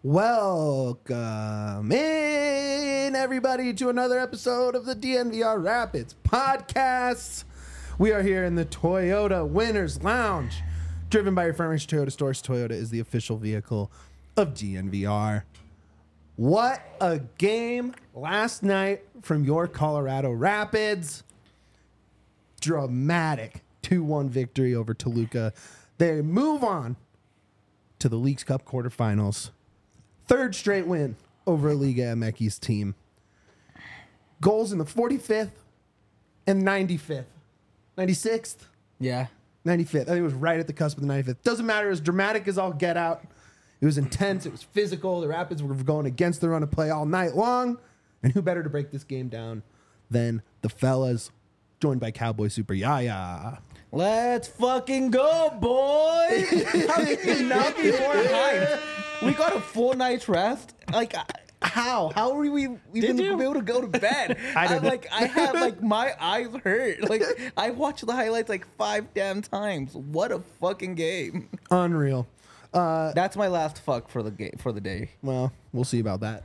Welcome in, everybody, to another episode of the DNVR Rapids podcast. We are here in the Toyota Winners Lounge, driven by your Furnish Toyota stores. Toyota is the official vehicle of DNVR. What a game last night from your Colorado Rapids. Dramatic 2-1 victory over Toluca. They move on to the Leagues Cup quarterfinals. Third straight win over Liga MX team. Goals in the 45th and 95th. 96th? Yeah. 95th. I think it was right at the cusp of the 95th. Doesn't matter. It was dramatic as all get out. It was intense. It was physical. The Rapids were going against the run of play all night long. And who better to break this game down than the fellas, joined by Cowboy Super Yaya. Let's fucking go, boys! How can you not be more hyped? We got a full night's rest. Like, how? How are we even able to go to bed? I had my eyes hurt. Like, I watched the highlights like 5 damn times. What a fucking game! Unreal. That's my last fuck for the day. Well, we'll see about that.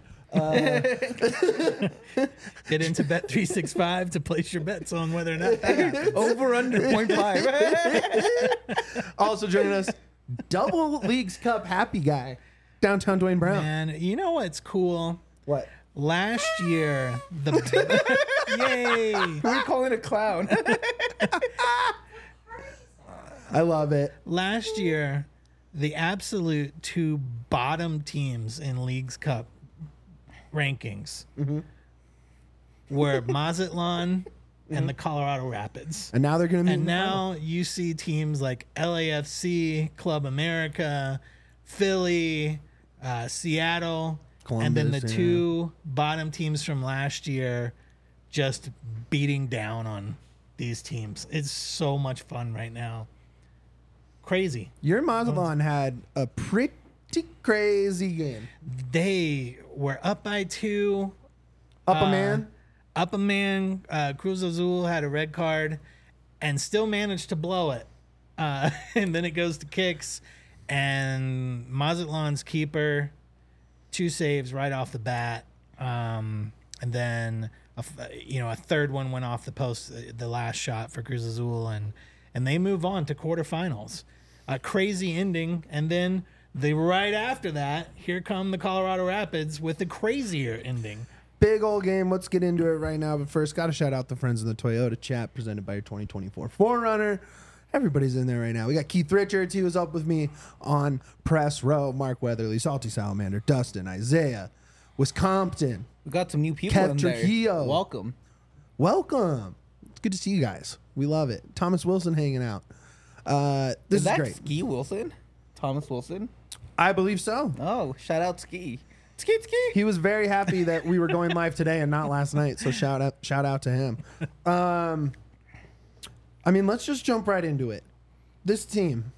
Get into Bet365 to place your bets on whether or not that happens. Over under 0.5. Also joining us, double Leagues Cup happy guy, downtown Dwayne Brown. And you know what's cool? What? Last year, yay! Who are you calling a clown? I love it. Last year, the absolute 2 bottom teams in Leagues Cup rankings were Mazatlan and the Colorado Rapids. And now they're going to And now you see teams like LAFC, Club America, Philly, Seattle, Columbus, and then the yeah. 2 bottom teams from last year just beating down on these teams. It's so much fun right now. Crazy. Your Mazatlan had a pretty crazy game. They were up by 2. Up a man. Cruz Azul had a red card and still managed to blow it. And then it goes to kicks, and Mazatlan's keeper, 2 saves right off the bat. And then a third one went off the post, the last shot for Cruz Azul, and they move on to quarterfinals. A crazy ending, and then right after that, here come the Colorado Rapids with a crazier ending. Big old game. Let's get into it right now. But first, got to shout out the friends in the Toyota chat presented by your 2024 4Runner. Everybody's in there right now. We got Keith Richards. He was up with me on press row. Mark Weatherly, Salty Salamander, Dustin, Isaiah, Wisconsin. We got some new people Kev in Trujillo. there. Welcome. It's good to see you guys. We love it. Thomas Wilson hanging out. This is that great. Ski Wilson? Thomas Wilson? I believe so. Oh, shout out Ski. Ski. He was very happy that we were going live today and not last night. So shout out to him. Let's just jump right into it. This team,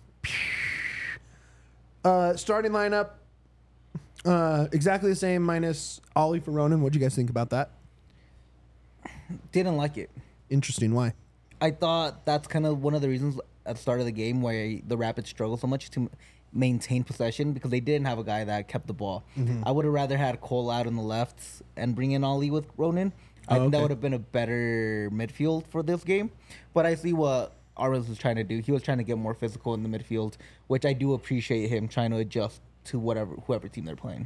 starting lineup, exactly the same minus Ollie for Ronan. What'd you guys think about that? Didn't like it. Interesting. Why? I thought that's kind of one of the reasons at the start of the game why the Rapids struggled so much to maintain possession, because they didn't have a guy that kept the ball. I would have rather had Cole out on the left and bring in Ollie with Ronan. I think that would have been a better midfield for this game. But I see what Armas was trying to do. He was trying to get more physical in the midfield, which I do appreciate him trying to adjust to whoever team they're playing.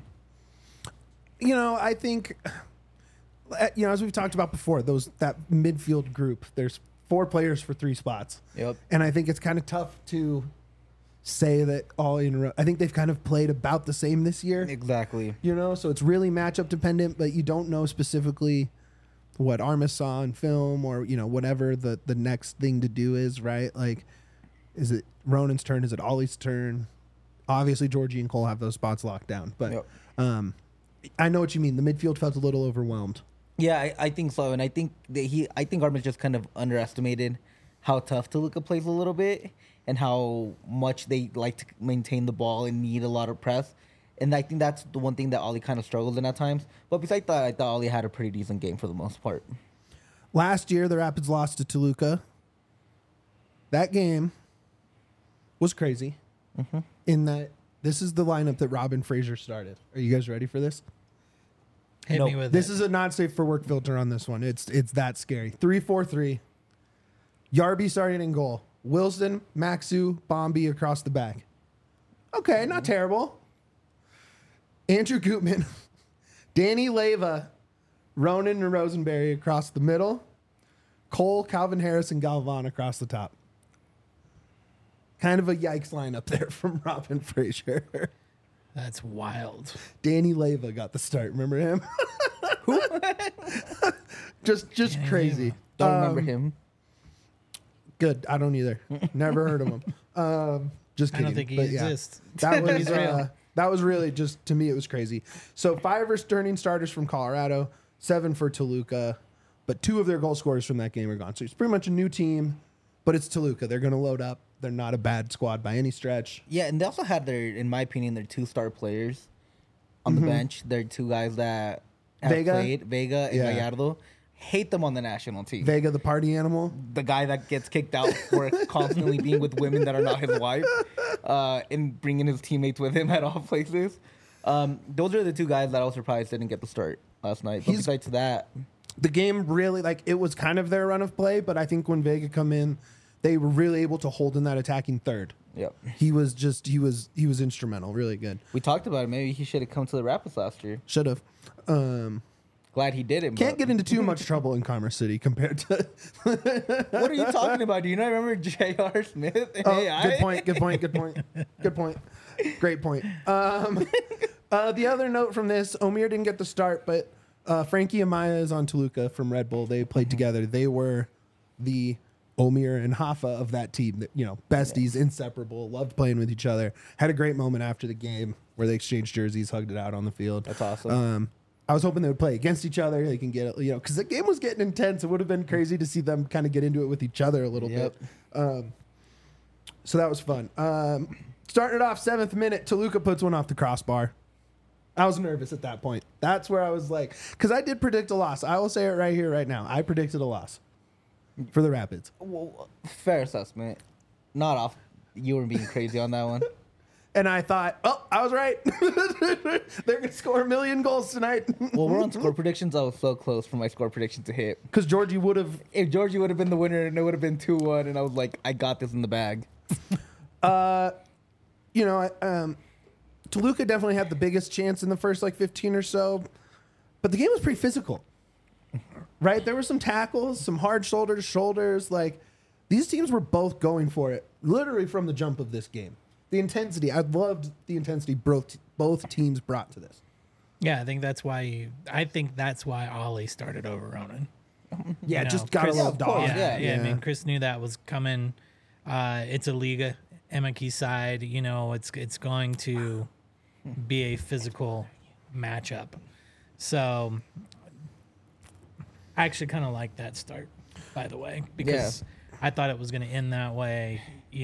I think, as we've talked about before, that midfield group, there's 4 players for 3 spots. Yep. And I think it's kind of tough to say that all in a row. I think they've kind of played about the same this year. Exactly. So it's really matchup dependent, but you don't know specifically what Armas saw in film or, whatever the next thing to do is, right? Like, is it Ronan's turn? Is it Ollie's turn? Obviously, Georgie and Cole have those spots locked down. But I know what you mean. The midfield felt a little overwhelmed. Yeah, I think so. And I think Armas just kind of underestimated how tough Toluca plays a little bit and how much they like to maintain the ball and need a lot of press. And I think that's the one thing that Ollie kind of struggled in at times. But besides that, I thought Ollie had a pretty decent game for the most part. Last year, the Rapids lost to Toluca. That game was crazy in that This is the lineup that Robin Fraser started. Are you guys ready for this? Hit me with This it. is a not safe for work filter on this one. It's that scary. 3-4-3. Yarby starting in goal. Wilson, Maxu, Bombi across the back. Okay, not terrible. Andrew Gutman, Danny Leyva, Ronan and Rosenberry across the middle. Cole, Calvin Harris, and Galvan across the top. Kind of a yikes lineup there from Robin Fraser. That's wild. Danny Leyva got the start. Remember him? Who? just Danny crazy. Don't remember him. Good. I don't either. Never heard of him. Just I kidding. don't think he But yeah, exists. that was He's real. that was really just, to me, it was crazy. So 5 returning starters from Colorado, 7 for Toluca, but 2 of their goal scorers from that game are gone. So it's pretty much a new team, but it's Toluca. They're going to load up. They're not a bad squad by any stretch. Yeah, and they also had in my opinion, their 2 star players on the bench. They're 2 guys that have played, Vega and Yeah. Gallardo. Hate them on the national team. Vega, the party animal. The guy that gets kicked out for constantly being with women that are not his wife, and bringing his teammates with him at all places. Those are the 2 guys that I was surprised didn't get the start last night. But besides that, The game really, it was kind of their run of play, but I think when Vega come in, they were really able to hold in that attacking third. yep. He was instrumental, really good. We talked about it. Maybe he should have come to the Rapids last year. Should have. Glad he didn't. Can't but- get into too much trouble in Commerce City compared to. What are you talking about? Do you not remember J.R. Smith? Oh, AI? good point. Good point. Good point. Good point. Great point. The other note from this, Omir didn't get the start, but Frankie Amaya is on Toluca from Red Bull. They played together. They were the Omir and Hafa of that team. Besties, inseparable, loved playing with each other. Had a great moment after the game where they exchanged jerseys, hugged it out on the field. That's awesome. I was hoping they would play against each other. They can get, because the game was getting intense. It would have been crazy to see them kind of get into it with each other a little Yep. bit. So that was fun. Started off 7th minute, Toluca puts one off the crossbar. I was nervous at that point. That's where I was like, because I did predict a loss. I will say it right here, right now. I predicted a loss for the Rapids. Well, fair assessment. Not off. You were being crazy on that one. And I thought, oh, I was right. They're going to score 1 million goals tonight. Well, we're on score predictions. I was so close for my score prediction to hit. Because Georgie would have. If Georgie would have been the winner, and it would have been 2-1, and I was like, I got this in the bag. Toluca definitely had the biggest chance in the first 15 or so, but the game was pretty physical, right? There were some tackles, some hard shoulder to shoulders. These teams were both going for it, literally from the jump of this game. The intensity, I loved the intensity both teams brought to this. Yeah, I think that's why Ollie started over Ronan. Yeah, You know, just gotta Chris- love of course, dog. yeah. I mean, Chris knew that was coming. It's a Liga, Emaki side. It's going to be a physical matchup. So I actually kind of like that start, by the way, because I thought it was going to end that way.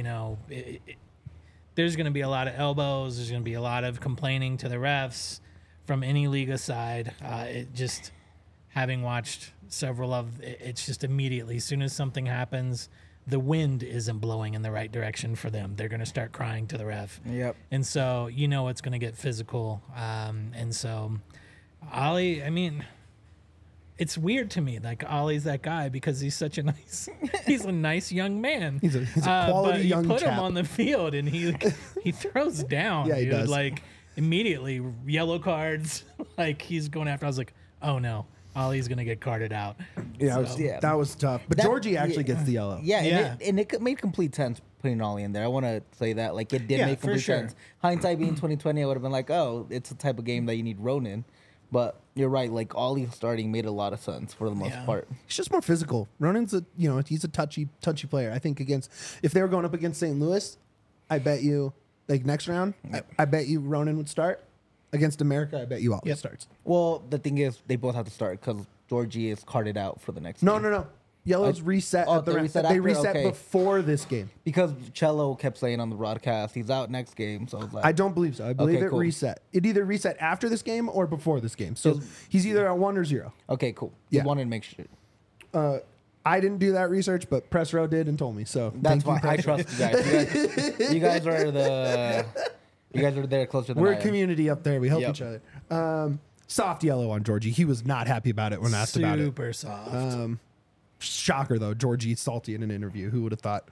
There's going to be a lot of elbows. There's going to be a lot of complaining to the refs from any Liga side. Having watched several of, it's just immediately, as soon as something happens, the wind isn't blowing in the right direction for them. They're going to start crying to the ref. Yep. And so, it's going to get physical. And so, Ollie, I mean, it's weird to me. Ollie's that guy because he's such a he's a nice young man. He's a quality but young you put chap. him on the field and he throws down. Yeah, he dude. does. Immediately, yellow cards. He's going after. I was like, oh no, Ollie's going to get carded out. Yeah, So- that was tough. But Georgie actually gets the yellow. Yeah, Yeah. and it made complete sense putting Ollie in there. I want to say that. It did Yeah, make for complete sure. sense. Hindsight being 2020, I would have been like, oh, it's the type of game that you need Ronan. But you're right. Ollie starting made a lot of sense for the most Yeah. part. He's just more physical. Ronan's he's a touchy player. I think if they were going up against St. Louis, I bet you next round, I bet you Ronan would start. Against America, I bet you Ollie starts. Well, the thing is, they both have to start because Georgie is carded out for the next game. No. Yellow's reset. oh, at the they ra- reset they after? reset Okay. before this game. Because Cello kept saying on the broadcast, he's out next game. So I was like, I don't believe so. I believe Okay, it cool. reset. It either reset after this game or before this game. So he's either at 1 or 0. okay, cool. Yeah. Just wanted to make sure. I didn't do that research, but Press Row did and told me. So That's thank you, fine. I Press Row. trust you guys. You guys are You guys are there closer than We're I a am. community up there. We help Yep. each other. Soft yellow on Georgie. He was not happy about it when asked about it. Super soft. Shocker though, Georgie salty in an interview. Who would have thought?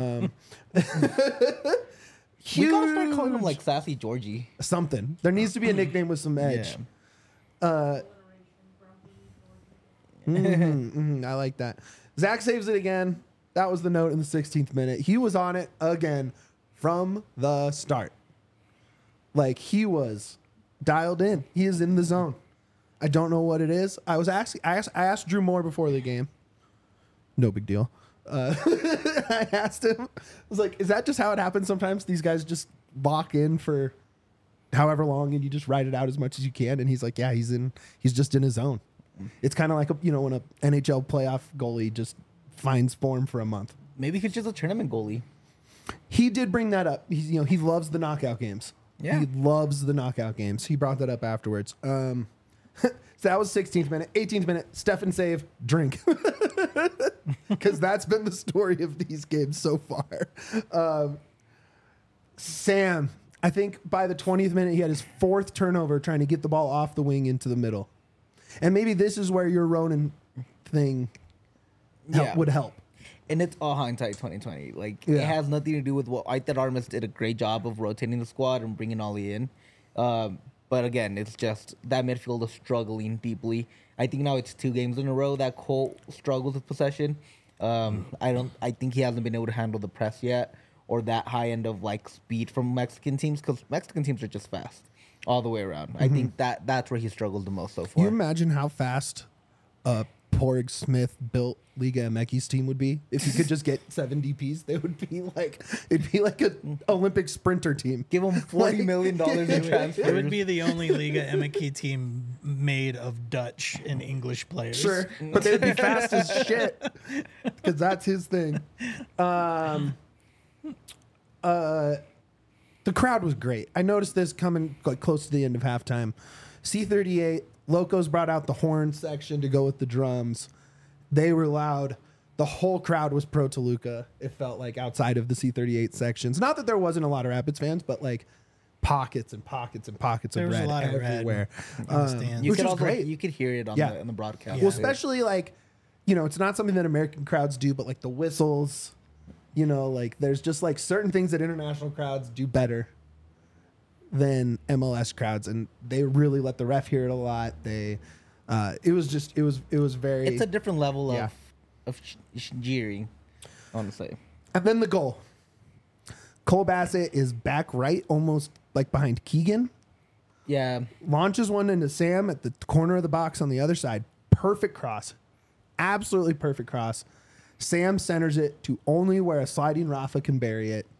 We gotta start calling him Huge. like Sassy Georgie. Something. There needs to be a nickname with some edge. I like that. Zach saves it again. That was the note in the 16th minute. He was on it again from the start. Like he was dialed in. He is in the zone. I don't know what it is. I asked Drew Moore before the game. No big deal. I asked him. I was like, "Is that just how it happens sometimes? These guys just lock in for however long, and you just ride it out as much as you can." And he's like, "Yeah, he's just in his zone." It's kind of like when an NHL playoff goalie just finds form for a month. Maybe he's just a tournament goalie. He did bring that up. He loves the knockout games. Yeah. He loves the knockout games. He brought that up afterwards. So that was 16th minute. 18th minute, Stefan save, drink. Because that's been the story of these games so far. Sam, I think by the 20th minute, he had his 4th turnover trying to get the ball off the wing into the middle. And maybe this is where your Ronan thing Yeah. would help. And it's all hindsight 2020. Like Yeah. it has nothing to do with what I thought. Artemis did a great job of rotating the squad and bringing Ollie in. But again, it's just that midfield is struggling deeply. I think now it's 2 games in a row that Cole struggles with possession. I think he hasn't been able to handle the press yet or that high end of like speed from Mexican teams because Mexican teams are just fast all the way around. I think that's where he struggled the most so Can you far. imagine how fast Porg Smith built Liga MX's team would be if you could just get 7 DPs? They would be like it'd be like an Olympic sprinter team. Give him $40 million in transfers. It would be the only Liga MX team made of Dutch and English players. Sure, but they'd be fast as shit because that's his thing. The crowd was great. I noticed this coming like close to the end of halftime. C38 Locos brought out the horn section to go with the drums. They were loud. The whole crowd was pro Toluca. It felt like outside of the C38 sections. Not that there wasn't a lot of Rapids fans, but like pockets and pockets and pockets There of was a red lot of red everywhere. in the stands. You Which could was also great. you could hear it on Yeah. the broadcast. Yeah. Well, especially like, it's not something that American crowds do, but like the whistles, like there's just like certain things that international crowds do better than MLS crowds, and they really let the ref hear it a lot. It was very. It's a different level Yeah. of jeering, honestly. And then the goal. Cole Bassett is back right, almost like behind Keegan. Yeah, Launches one into Sam at the corner of the box on the other side. Perfect cross. Absolutely perfect cross. Sam centers it to only where a sliding Rafa can bury it.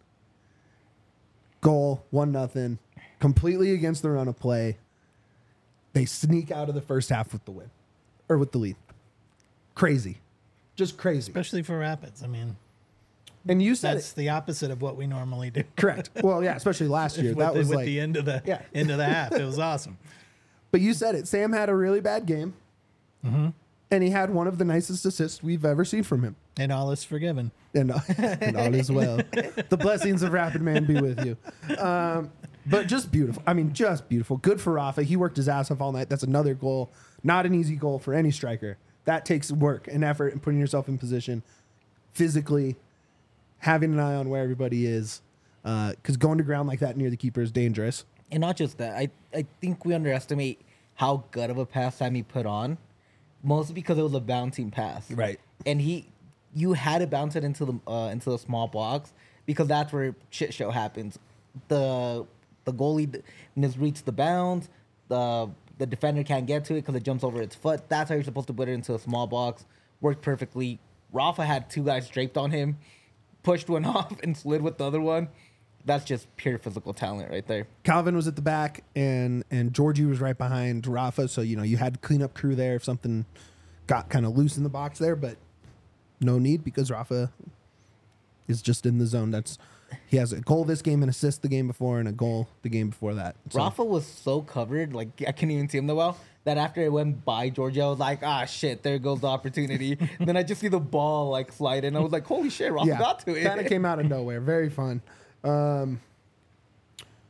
Goal, 1-0. Completely against the run of play. They sneak out of the first half with the win. Or with the lead. Crazy. Just crazy. Especially for Rapids. I mean, And you said that's it. the opposite of what we normally do. Correct. Well, yeah, especially last year. with That was with like. the end of the Yeah. end of the half. It was awesome. But you said it. Sam had a really bad game. And he had one of the nicest assists we've ever seen from him. And all is forgiven. And all is well. The blessings of Rapid Man be with you. But just beautiful. I mean, just beautiful. Good for Rafa. He worked his ass off all night. That's another goal. Not an easy goal for any striker. That takes work and effort and putting yourself in position physically, having an eye on where everybody is. Because going to ground like that near the keeper is dangerous. and not just that. I think we underestimate how good of a pass Sammy put on, mostly because it was a bouncing pass. Right. And you had to bounce it into the small box because that's where shit show happens. The goalie misreads the bounds. The defender can't get to it because it jumps over its foot. That's how you're supposed to put it into a small box. Worked perfectly. Rafa had 2 guys draped on him, pushed one off and slid with the other one. That's just pure physical talent right there. Calvin was at the back and Georgie was right behind Rafa. So, you had cleanup crew there if something got kind of loose in the box there, but no need because Rafa is just in the zone. He has a goal this game, an assist the game before, and a goal the game before that. So, Rafa was so covered, like I couldn't even see him that well, that after it went by Georgia, I was like, shit, there goes the opportunity. Then I just see the ball like slide in. I was like, holy shit, Rafa got to it. Kind of came out of nowhere. Very fun.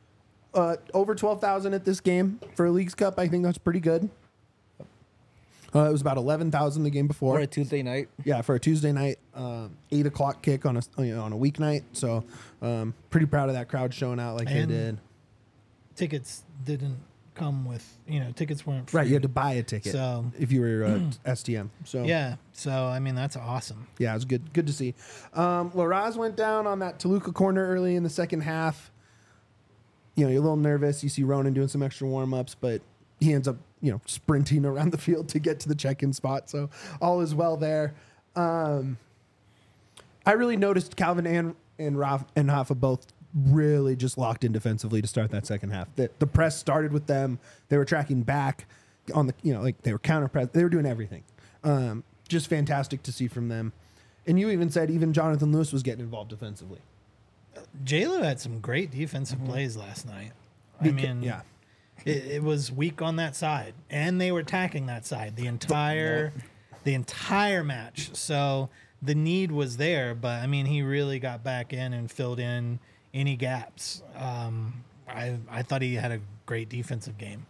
over 12,000 at this game for a Leagues Cup. I think that's pretty good. It was about 11,000 the game before. Or a Tuesday night. Yeah, for a Tuesday night, 8 o'clock kick on a on a weeknight. So pretty proud of that crowd showing out like And they did. Tickets didn't come with, tickets weren't free. Right, you had to buy a ticket So- if you were STM. So Yeah. So, I mean, that's awesome. yeah, it was good to see. Laraz went down on that Toluca corner early in the second half. You're a little nervous. You see Ronan doing some extra warm-ups, but he ends up, sprinting around the field to get to the check-in spot. So all is well there. I really noticed Calvin and Rafa both really just locked in defensively to start that second half. The press started with them. They were tracking back on the, they were counter press. They were doing everything. Just fantastic to see from them. And you even said even Jonathan Lewis was getting involved defensively. J-Lo had some great defensive plays last night. I mean, yeah. it was weak on that side, and they were attacking that side the entire match. So the need was there, but I mean, he really got back in and filled in any gaps. I thought he had a great defensive game.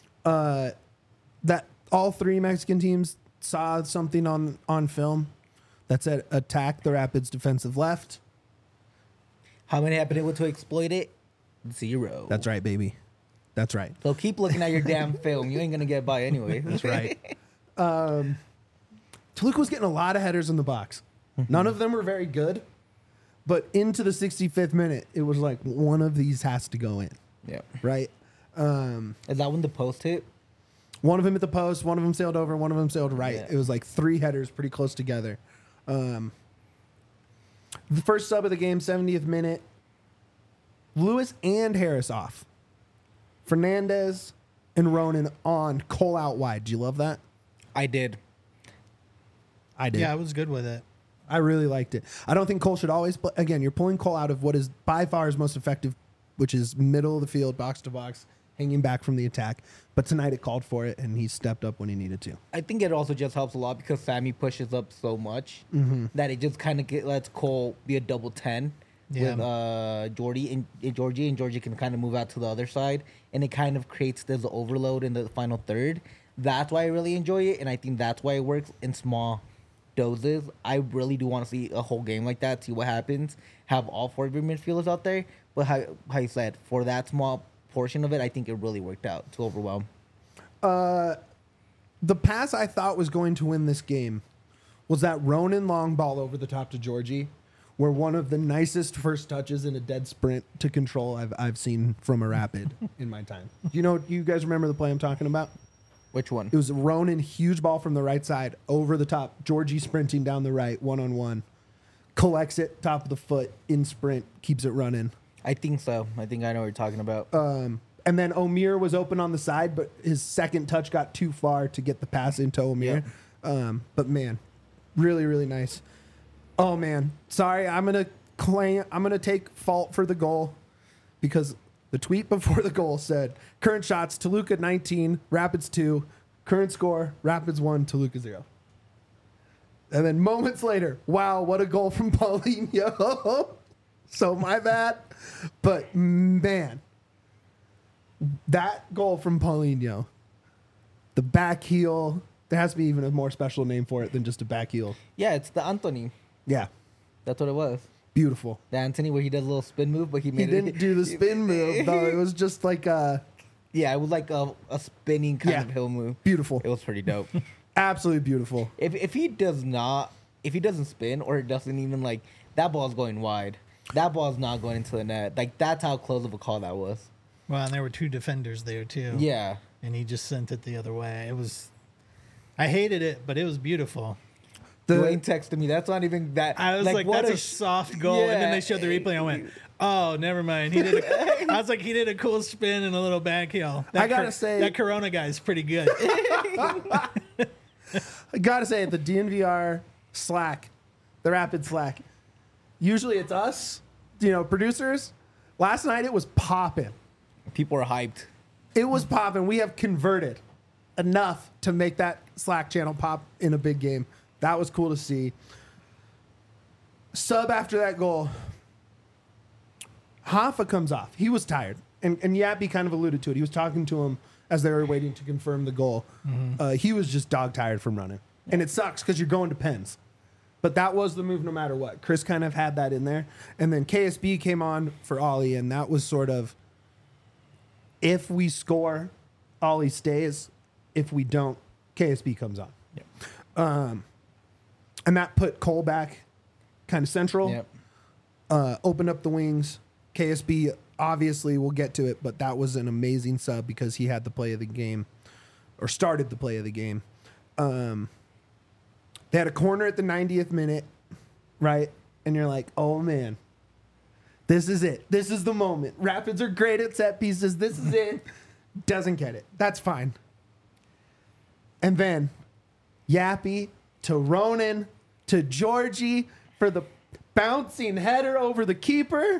That all three Mexican teams saw something on film that said attack the Rapids defensive left. How many have been able to exploit it? 0. That's right, baby. That's right. So keep looking at your damn film. You ain't gonna get by anyway. That's right. Toluca was getting a lot of headers in the box. None of them were very good, but into the 65th minute, it was like one of these has to go in, Yeah. right? Is that when the post hit? One of them hit the post, one of them sailed over, one of them sailed right. Yeah. It was like 3 headers pretty close together. The first sub of the game, 70th minute, Lewis and Harris off. Fernandez and Ronan on, Cole out wide. Do you love that? I did. I did. Yeah, I was good with it. I really liked it. I don't think Cole should always, but again, you're pulling Cole out of what is by far his most effective, which is middle of the field, box to box, hanging back from the attack. But tonight it called for it, and he stepped up when he needed to. I think it also just helps a lot because Sammy pushes up so much that it just kind of lets Cole be a double 10 with Georgie, and Georgie can kind of move out to the other side, and it kind of creates this overload in the final third. That's why I really enjoy it, and I think that's why it works in small doses. I really do want to see a whole game like that, see what happens, have all 4 of your midfielders out there. But how you said, for that small portion of it, I think it really worked out to overwhelm. The pass I thought was going to win this game was that Ronan long ball over the top to Georgie, where one of the nicest first touches in a dead sprint to control I've seen from a Rapid in my time. Do you guys remember the play I'm talking about? Which one? It was Ronan, huge ball from the right side, over the top. Georgie sprinting down the right, one-on-one. Collects it, top of the foot, in sprint, keeps it running. I think so. I think I know what you're talking about. And then Omir was open on the side, but his second touch got too far to get the pass into Omir. But man, really, really nice. Oh man, sorry, I'm gonna take fault for the goal because the tweet before the goal said current shots Toluca 19, Rapids 2, current score Rapids 1, Toluca 0. And then moments later, wow, what a goal from Paulinho. So my bad, but man, that goal from Paulinho, the back heel, there has to be even a more special name for it than just a back heel. Yeah, it's the Anthony. Yeah, That's what it was. beautiful. The Anthony where he does a little spin move, but he He made it. didn't do the spin move though. It was just like Yeah, it was like a spinning kind Yeah. of hill move. beautiful, It was pretty dope. absolutely beautiful. if he doesn't spin or it doesn't even like that ball's going wide. That ball's not going into the net. Like that's how close of a call that was. Well, and there were 2 defenders there, too. Yeah. And he just sent it the other way. I hated it, but it was beautiful. Dwayne texted me. That's not even that. I was like, what that's a soft goal. And then Yeah. they showed the replay. And I went, oh, never mind. He did. I was like, he did a cool spin and a little back heel. I gotta say- that Corona guy's pretty good. I gotta say, the DNVR Slack, the Rapid Slack, usually it's us, producers. Last night it was popping. People are hyped. It was popping. We have converted enough to make that Slack channel pop in a big game. That was cool to see. Sub after that goal, Hoffa comes off. He was tired. And Yappy kind of alluded to it. He was talking to him as they were waiting to confirm the goal. He was just dog tired from running. And it sucks because you're going to pens. But that was the move no matter what. Chris kind of had that in there. And then KSB came on for Ollie, and that was sort of, if we score, Ollie stays. If we don't, KSB comes on. Yep. And that put Cole back kind of central. Yep. Opened up the wings. KSB, obviously, we'll get to it, but that was an amazing sub because he had the play of the game, or started the play of the game. They had a corner at the 90th minute, right? And you're like, oh, man, this is it. This is the moment. Rapids are great at set pieces. This is it. Doesn't get it. That's fine. And then Yappy to Ronan to Georgie for the bouncing header over the keeper.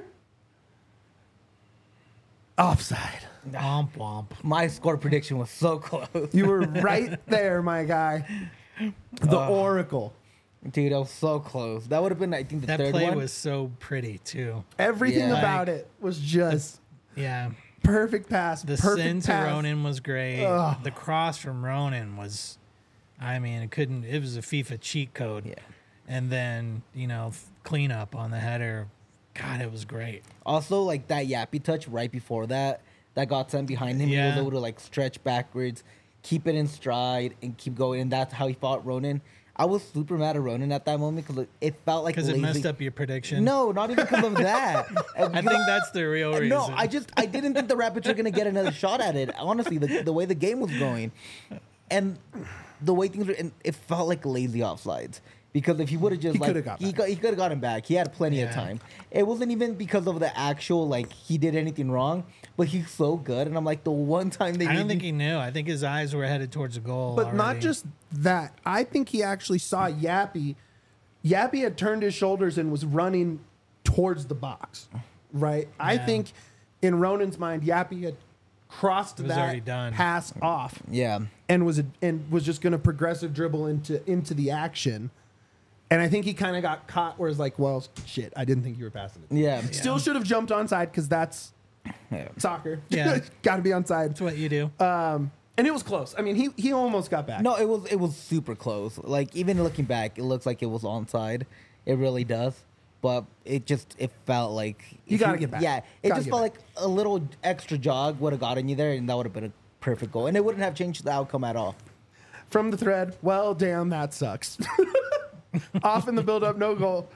Offside. Womp womp. My score prediction was so close. You were right there, my guy. The Oracle. Dude, that was so close. That would have been, I think, the That third play one. was so pretty too. Everything Yeah. about it was just Yeah. perfect pass. The perfect send to pass. Ronan was great. Ugh. The cross from Ronan was, I mean, it was a FIFA cheat code. Yeah. And then, cleanup on the header. God, it was great. Also, like that Yappy touch right before that got sent behind him. He Yeah. was able to like stretch backwards, keep it in stride, and keep going. And that's how he fought Ronan. I was super mad at Ronan at that moment because it felt like Because it lazy. messed up your prediction. No, not even because of that. I think that's the real reason. No, I didn't think the Rapids were gonna get another shot at it. Honestly, the way the game was going, and the way things were, and it felt like lazy offsides. Because if he would have just He like coulda got he back. could have gotten back. He had plenty of Yeah. time. It wasn't even because of the actual like he did anything wrong, but he's so good. And I'm like the one time they I don't made think me- he knew. I think his eyes were headed towards a goal. But not already. just that. I think he actually saw Yappy. Yappy had turned his shoulders and was running towards the box, right? I Yeah. think in Ronan's mind, Yappy had crossed It was already that done. pass off Yeah. and was just going to progressive dribble into the action. And I think he kind of got caught where it's like, well, shit, I didn't think you were passing it. Yeah. Still should have jumped onside because that's Yeah. soccer. Yeah. Got to be onside. That's what you do. And it was close. I mean, he almost got back. No, it was super close. Like even looking back, it looks like it was onside. It really does. But it felt like You if gotta get back. Yeah, it Gotta just get felt back. like a little extra jog would have gotten you there, and that would have been a perfect goal, and it wouldn't have changed the outcome at all. From the thread, well, damn, that sucks. Off in the build-up, no goal.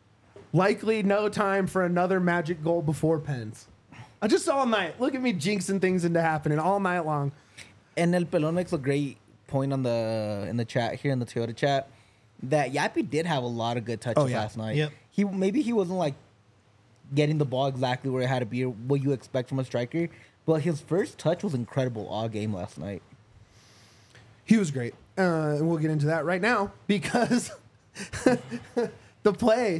Likely no time for another magic goal before pens. I just all night. Look at me jinxing things into happening all night long. And El Pelon makes a great point in the chat here in the Toyota chat that Yappy did have a lot of good touches Oh, yeah. last night. Yep. Maybe he wasn't like getting the ball exactly where it had to be or what you expect from a striker, but his first touch was incredible all game last night. He was great. And we'll get into that right now because the play,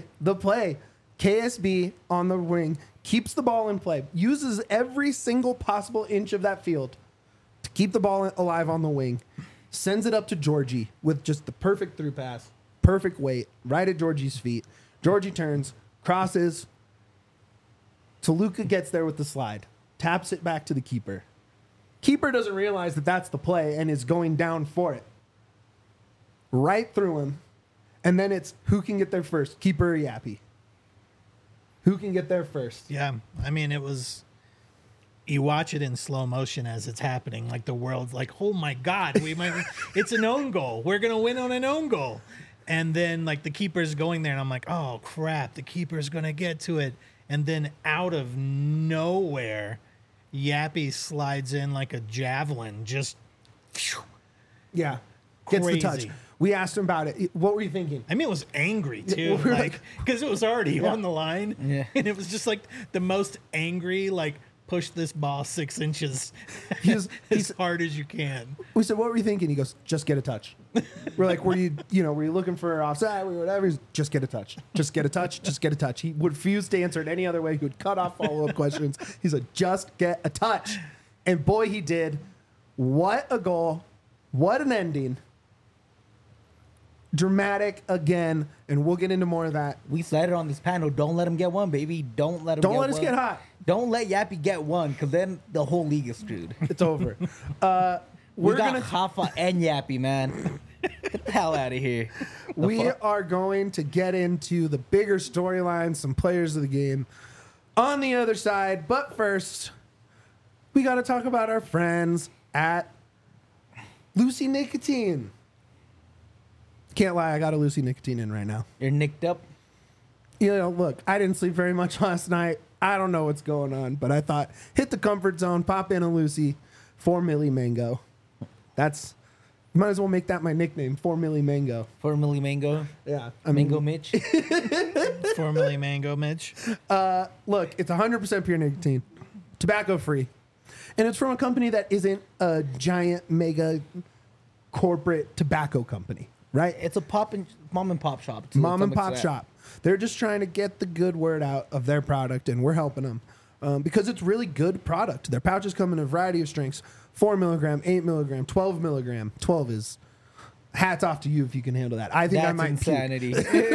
KSB on the wing keeps the ball in play, uses every single possible inch of that field to keep the ball alive on the wing, sends it up to Georgie with just the perfect through pass, perfect weight, right at Georgie's feet. Georgie turns, crosses. Toluca gets there with the slide, taps it back to the keeper. Keeper doesn't realize that that's the play and is going down for it. Right through him. And then it's who can get there first, keeper or Yappy? Who can get there first? Yeah, I mean, it was. You watch it in slow motion as it's happening, like the world's like, "Oh my God, we might! It's an own goal. We're gonna win on an own goal." And then like the keeper's going there, and I'm like, "Oh crap, the keeper's gonna get to it." And then out of nowhere, Yappy slides in like a javelin, just. Phew. Yeah. Gets the touch. Crazy. We asked him about it. What were you thinking? I mean, it was angry too, we're like because it was already Yeah. on the line, Yeah. and it was just like the most angry, like push this ball 6 inches He's- as hard as you can. We said, what were you thinking? He goes, just get a touch. We're like, were you looking for offside or whatever? He's, just get a touch. Just get a touch. Just get a touch. He would refuse to answer it any other way. He would cut off follow-up questions. He said, just get a touch. And boy, he did. What a goal. What an ending. Dramatic again. And we'll get into more of that. We said it on this panel. Don't let him get one, baby. Don't let him. Don't get let us one. get hot. Don't let Yappy get one, because then the whole league is screwed. It's over. We got Hafa and Yappy, man. Get the hell out of here. We are going to get into the bigger storylines, some players of the game on the other side. But first, we got to talk about our friends at Lucy Nicotine. Can't lie, I got a Lucy Nicotine in right now. You're nicked up. You know, look, I didn't sleep very much last night. I don't know what's going on, but I thought hit the comfort zone, pop in a Lucy, 4 Milli Mango. Might as well make that my nickname, 4 Milli Mango. 4 Milli Mango. Yeah. Mango Mitch. 4 Milli Mango Mitch. Look, it's 100% pure nicotine, tobacco free. And it's from a company that isn't a giant, mega corporate tobacco company, right? It's a mom and pop shop. Too, Mom and pop shop. They're just trying to get the good word out of their product, and we're helping them because it's really good product. Their pouches come in a variety of strengths: 4 milligram, 8 milligram, 12 milligram. 12 is hats off to you if you can handle that. I think I might insanity.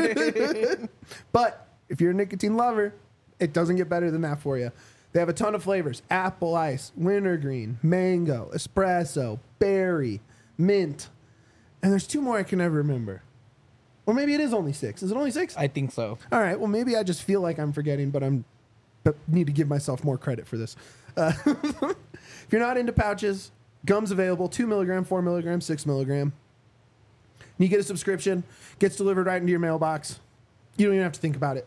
But if you're a nicotine lover, it doesn't get better than that for you. They have a ton of flavors: apple ice, wintergreen, mango, espresso, berry, mint, and there's 2 more I can never remember. Or maybe it is only 6. Is it only 6? I think so. All right. Well, maybe I just feel like I'm forgetting, but need to give myself more credit for this. If you're not into pouches, gum's available: 2 milligram, 4 milligram, 6 milligram. You get a subscription, gets delivered right into your mailbox. You don't even have to think about it.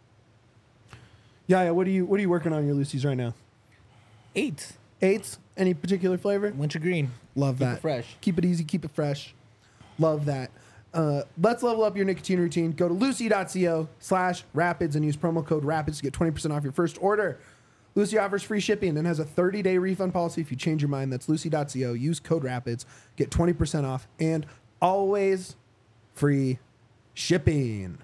Yeah. What are you working on your Lucy's right now? 8. 8s? Any particular flavor? Wintergreen. Love that. Keep it fresh. Keep it easy. Keep it fresh. Love that. Let's level up your nicotine routine. Go to lucy.co/rapids and use promo code RAPIDS to get 20% off your first order. Lucy offers free shipping and has a 30-day refund policy if you change your mind. That's lucy.co. Use code RAPIDS. Get 20% off and always free shipping.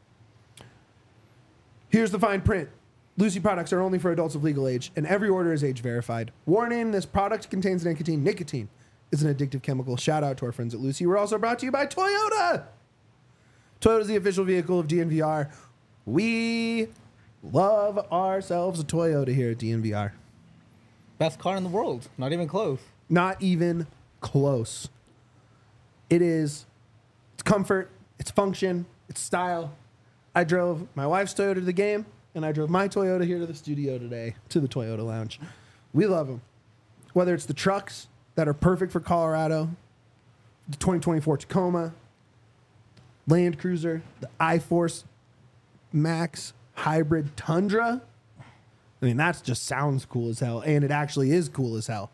Here's the fine print. Lucy products are only for adults of legal age, and every order is age verified. Warning, this product contains nicotine. Nicotine is an addictive chemical. Shout out to our friends at Lucy. We're also brought to you by Toyota. Toyota is the official vehicle of DNVR. We love ourselves a Toyota here at DNVR. Best car in the world. Not even close. Not even close. It's comfort, it's function, it's style. I drove my wife's Toyota to the game, and I drove my Toyota here to the studio today, to the Toyota Lounge. We love them. Whether it's the trucks that are perfect for Colorado, the 2024 Tacoma, Land Cruiser, the iForce Max Hybrid Tundra. I mean, that just sounds cool as hell, and it actually is cool as hell.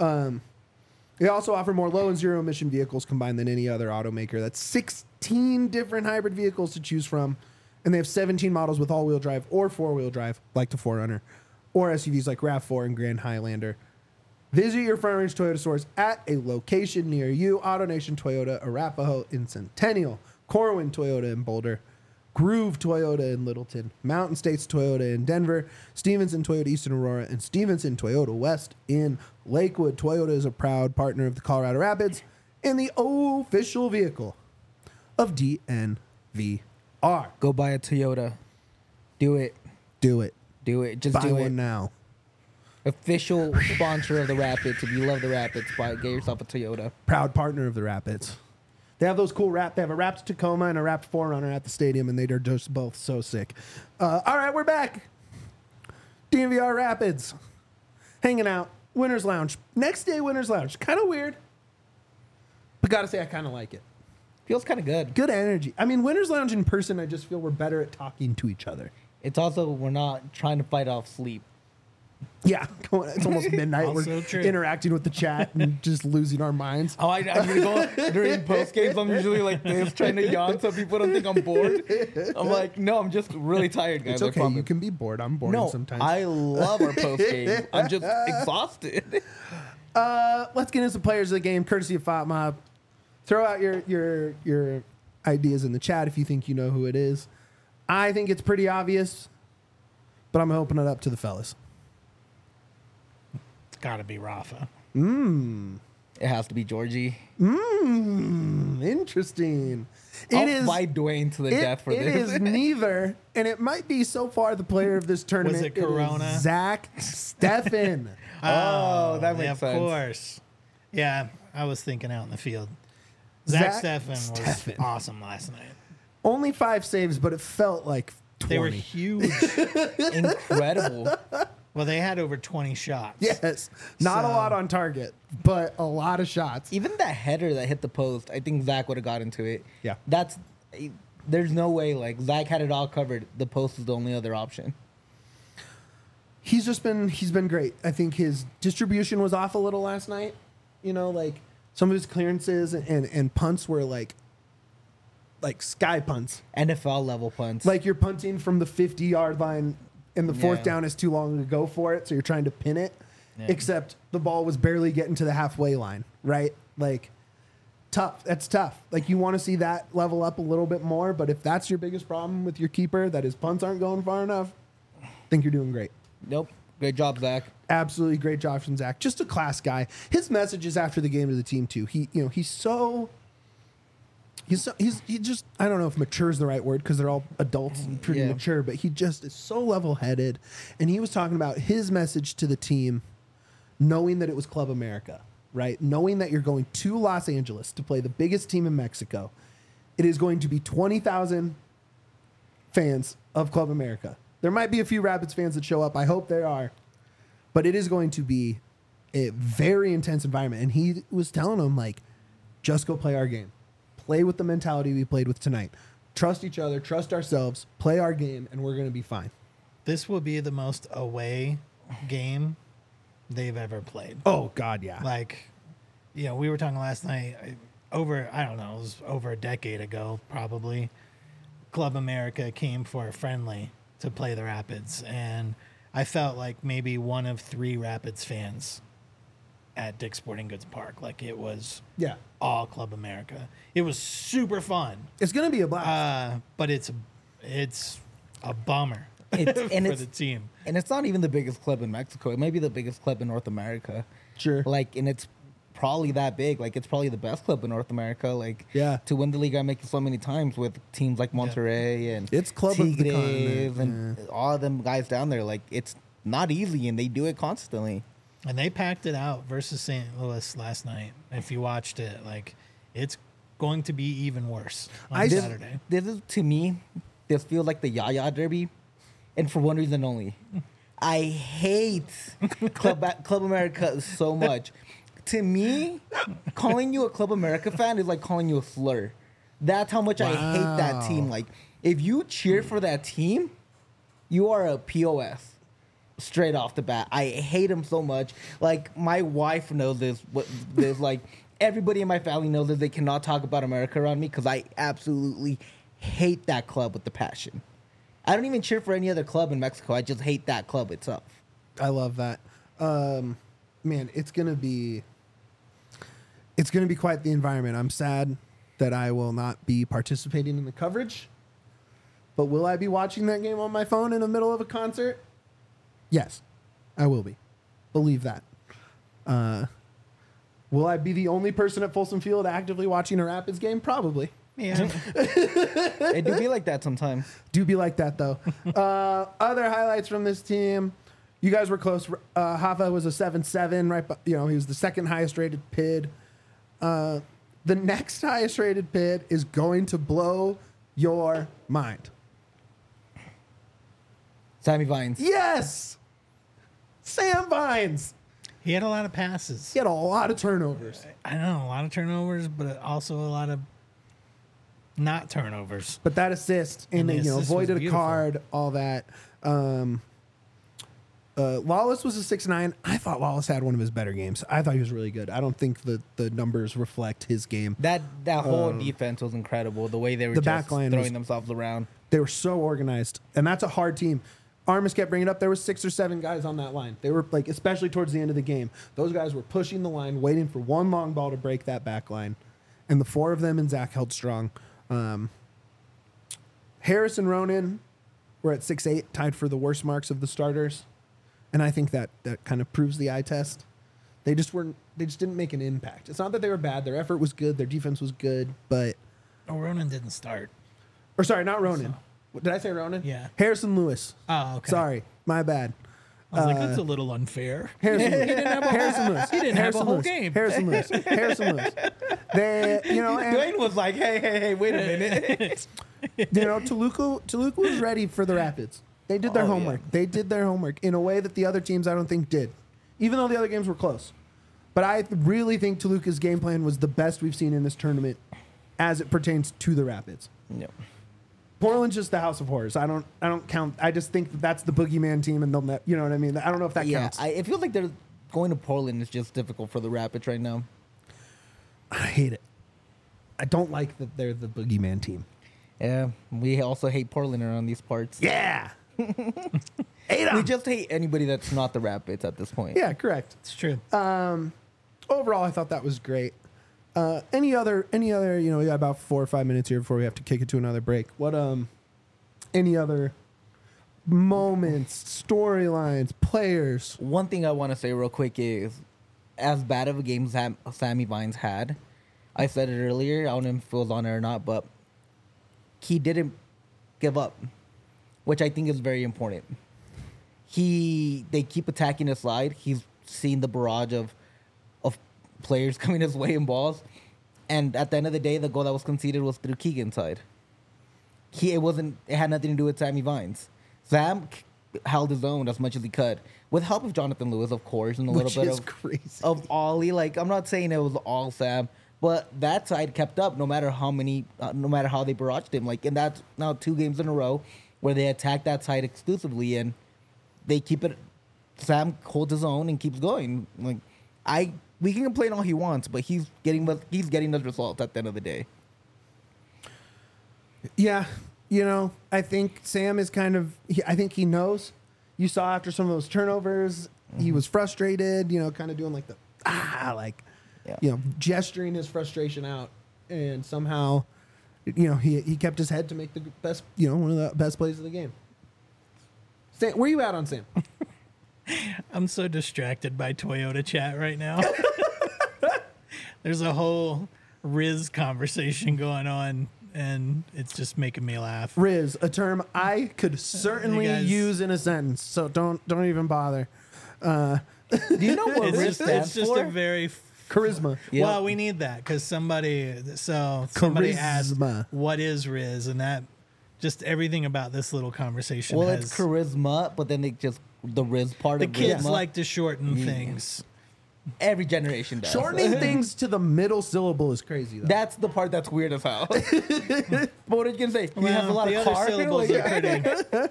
They also offer more low and zero emission vehicles combined than any other automaker. That's 16 different hybrid vehicles to choose from, and they have 17 models with all-wheel drive or four-wheel drive, like the 4Runner, or SUVs like RAV4 and Grand Highlander. Visit your Front Range Toyota stores at a location near you. AutoNation Toyota, Arapahoe in Centennial, Corwin Toyota in Boulder, Groove Toyota in Littleton, Mountain States Toyota in Denver, Stevenson Toyota East in Aurora, and Stevenson Toyota West in Lakewood. Toyota is a proud partner of the Colorado Rapids and the official vehicle of DNVR. Go buy a Toyota. Do it. Do it. Do it. Just Buy do it. one now. Official sponsor of the Rapids. If you love the Rapids, get yourself a Toyota. Proud partner of the Rapids. They have those cool They have a wrapped Tacoma and a wrapped 4Runner at the stadium, and they're just both so sick. All right, we're back. DNVR Rapids. Hanging out. Winners Lounge. Next day, Winners Lounge. Kind of weird. But gotta say, I kind of like it. Feels kind of good. Good energy. I mean, Winners Lounge in person, I just feel we're better at talking to each other. It's also, we're not trying to fight off sleep. Yeah, it's almost midnight. Also We're true. interacting with the chat and just losing our minds. Oh, I'm gonna go during post games. I'm usually like this, trying to yawn so people don't think I'm bored. I'm like, no, I'm just really tired, guys. It's okay. You can be bored. I'm bored No, sometimes. I love our post game. I'm just exhausted. Let's get into some players of the game, courtesy of Fat Mob. Throw out your ideas in the chat if you think you know who it is. I think it's pretty obvious, but I'm opening it up to the fellas. It's got to be Rafa. It has to be Georgie. It Interesting. I'll fight Dwayne to the death for it this. is neither, and it might be so far the player of this tournament. Was it Corona? Is Zach Steffen. Oh, that makes of sense. course. Yeah, I was thinking out in the field. Zach Steffen was Steffen. awesome last night. Only 5 saves, but it felt like 20. They were huge. Incredible. Well, they had over 20 shots. Yes, not a So- lot on target, but a lot of shots. Even that header that hit the post, I think Zach would have got into it. Yeah. There's no way, like, Zach had it all covered. The post is the only other option. He's been great. I think his distribution was off a little last night. You know, like some of his clearances and punts were like sky punts. NFL level punts. Like you're punting from the 50-yard line and the fourth Yeah. down is too long to go for it, so you're trying to pin it. Yeah. Except the ball was barely getting to the halfway line, right? Like tough. That's tough. Like you want to see that level up a little bit more, but if that's your biggest problem with your keeper, that his punts aren't going far enough, I think you're doing great. Nope. Great job, Zach. Absolutely great job from Zach. Just a class guy. His messages after the game to the team too. He just, I don't know if mature is the right word because they're all adults and pretty Yeah. mature, but he just is so level headed. And he was talking about his message to the team, knowing that it was Club America, right? Knowing that you're going to Los Angeles to play the biggest team in Mexico. It is going to be 20,000 fans of Club America. There might be a few Rapids fans that show up. I hope there are. But it is going to be a very intense environment. And he was telling them, like, just go play our game. Play with the mentality we played with tonight. Trust each other, trust ourselves, play our game, and we're going to be fine. This will be the most away game they've ever played. Oh, God, yeah. Like, you know, we were talking last night I don't know, it was over a decade ago, probably. Club America came for a friendly to play the Rapids, and I felt like maybe one of 3 Rapids fans at Dick's Sporting Goods Park. Like, it was Yeah. all Club America. It was super fun, It's going to be a blast. but it's a bummer for the team. And it's not even the biggest club in Mexico. It might be the biggest club in North America. Sure. Like, and it's probably that big. Like, it's probably the best club in North America. Like, Yeah. to win the league, I make it so many times with teams like Monterrey and It's club of the Tigres continent, and all of them guys down there. Like, it's not easy, and they do it constantly. And they packed it out versus St. Louis last night. If you watched it, like, it's going to be even worse on Saturday. This is, to me, this feels like the Yaya Derby, and for one reason only. I hate Club America so much. To me, calling you a Club America fan is like calling you a slur. That's how much I hate that team. Like, if you cheer for that team, you are a POS. Straight off the bat, I hate him so much. Like, my wife knows this. Like, everybody in my family knows that they cannot talk about America around me because I absolutely hate that club with the passion. I don't even cheer for any other club in Mexico. I just hate that club itself. I love that. Man, it's gonna be quite the environment. I'm sad that I will not be participating in the coverage, but will I be watching that game on my phone in the middle of a concert? Yes, I will be. Believe that. Will I be the only person at Folsom Field actively watching a Rapids game? Probably. Yeah. It do be like that sometimes. Do be like that, though. Other highlights from this team. You guys were close. Hava was a 7-7, right? He was the second highest rated PID. The next highest rated PID is going to blow your mind. Sammy Vines. Yes! Sam Vines. He had a lot of passes. He had a lot of turnovers. I know, a lot of turnovers, but also a lot of not turnovers. But that assist, and the assist was avoided a beautiful. card, all that. Lawless was a 6-9. I thought Lawless had one of his better games. I thought he was really good. I don't think the numbers reflect his game. That whole defense was incredible. The way they were The just back line throwing was- themselves around. They were so organized, and that's a hard team. Armis kept bringing it up. There were 6 or 7 guys on that line. They were like, especially towards the end of the game, those guys were pushing the line, waiting for one long ball to break that back line, and the 4 of them and Zach held strong. Harris and Ronan were at 6'8", tied for the worst marks of the starters, and I think that kind of proves the eye test They just weren't. They just didn't make an impact. It's not that they were bad. Their effort was good. Their defense was good. But Oh, Ronan didn't start. or sorry, not Ronan. Did I say Ronan? Yeah. Harrison Lewis. Oh, okay. Sorry, my bad. I was like, that's a little unfair. Harrison Lewis. Harrison Lewis. He didn't have a whole Lewis. game. Harrison Lewis. Harrison Lewis. They, and Dwayne was like, hey, wait a minute. Toluca was ready for the Rapids. They did their homework. Yeah. They did their homework in a way that the other teams I don't think did, even though the other games were close. But I really think Toluca's game plan was the best we've seen in this tournament as it pertains to the Rapids. Yep. Portland's just the House of Horrors. I don't count. I just think that's the boogeyman team, and they'll you know what I mean. I don't know if that counts. It feels like they're going to Portland is just difficult for the Rapids right now. I hate it. I don't like that they're the boogeyman team. Yeah, we also hate Portland around these parts. Yeah. We just hate anybody that's not the Rapids at this point. Yeah, correct. It's true. Overall, I thought that was great. Any other, we got about 4 or 5 minutes here before we have to kick it to another break. What, any other moments, storylines, players? One thing I want to say real quick is, as bad of a game as Sammy Vines had, I said it earlier, I don't know if it was on it or not, but he didn't give up, which I think is very important. They keep attacking his slide. He's seen the barrage of players coming his way in balls. And at the end of the day, the goal that was conceded was through Keegan's side. It had nothing to do with Sammy Vines. Sam held his own as much as he could, with help of Jonathan Lewis, of course, and a little bit of Ollie. Like, I'm not saying it was all Sam, but that side kept up no matter how they barraged him. Like, and that's now 2 games in a row where they attack that side exclusively, and they keep it. Sam holds his own and keeps going. Like, we can complain all he wants, but he's getting those results at the end of the day. Yeah, I think Sam is I think he knows. You saw after some of those turnovers, he was frustrated, kind of doing like the, gesturing his frustration out. And somehow, he kept his head to make the best, one of the best plays of the game. Sam, where you at on Sam? I'm so distracted by Toyota chat right now. There's a whole Riz conversation going on, and it's just making me laugh. Riz, a term I could certainly use in a sentence, so don't even bother. Do you know what Riz stands It's just for? a very charisma. Yep. Well, we need that because somebody asked, "What is Riz?" and that just everything about this little conversation. Well, it's charisma, but then the Riz part the of kids Rizma. like to shorten things. Every generation does. Shortening things to the middle syllable is crazy, though. That's the part that's weird as hell. But what are you gonna say? He has a lot the of other car. syllables are pretty.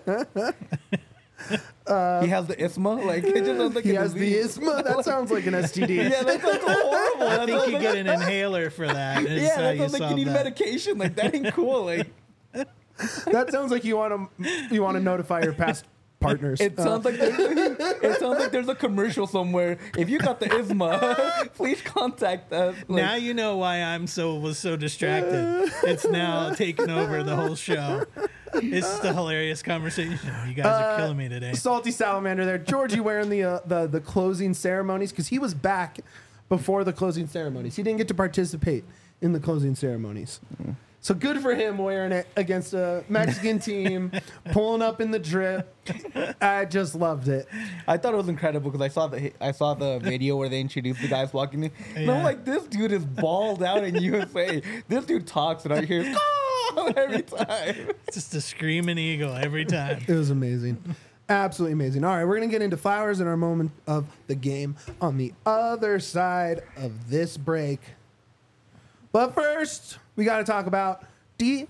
He has the isma. Like, it just sounds like he a has the disease. isma. That sounds like an STD. Yeah, that sounds horrible. I think you get an inhaler for that. Yeah, that sounds like you need medication. Like, that ain't cool. Like, That sounds like you want to notify your past partners. it sounds like there's a commercial somewhere. If you got the isma, please contact us. Like, Now you know why was so distracted. It's now taken over the whole show. It's just a hilarious conversation. You guys are killing me today. Salty salamander there. Georgie wearing the closing ceremonies because he was back before the closing ceremonies. He didn't get to participate in the closing ceremonies. So good for him wearing it against a Mexican team, pulling up in the drip. I just loved it. I thought it was incredible because I saw the video where they introduced the guys walking in. And I'm like, this dude is balled out in USA. This dude talks and I hear every time. Just a screaming eagle every time. It was amazing. Absolutely amazing. All right, we're going to get into flowers in our moment of the game on the other side of this break. But first, we got to talk about DNVR.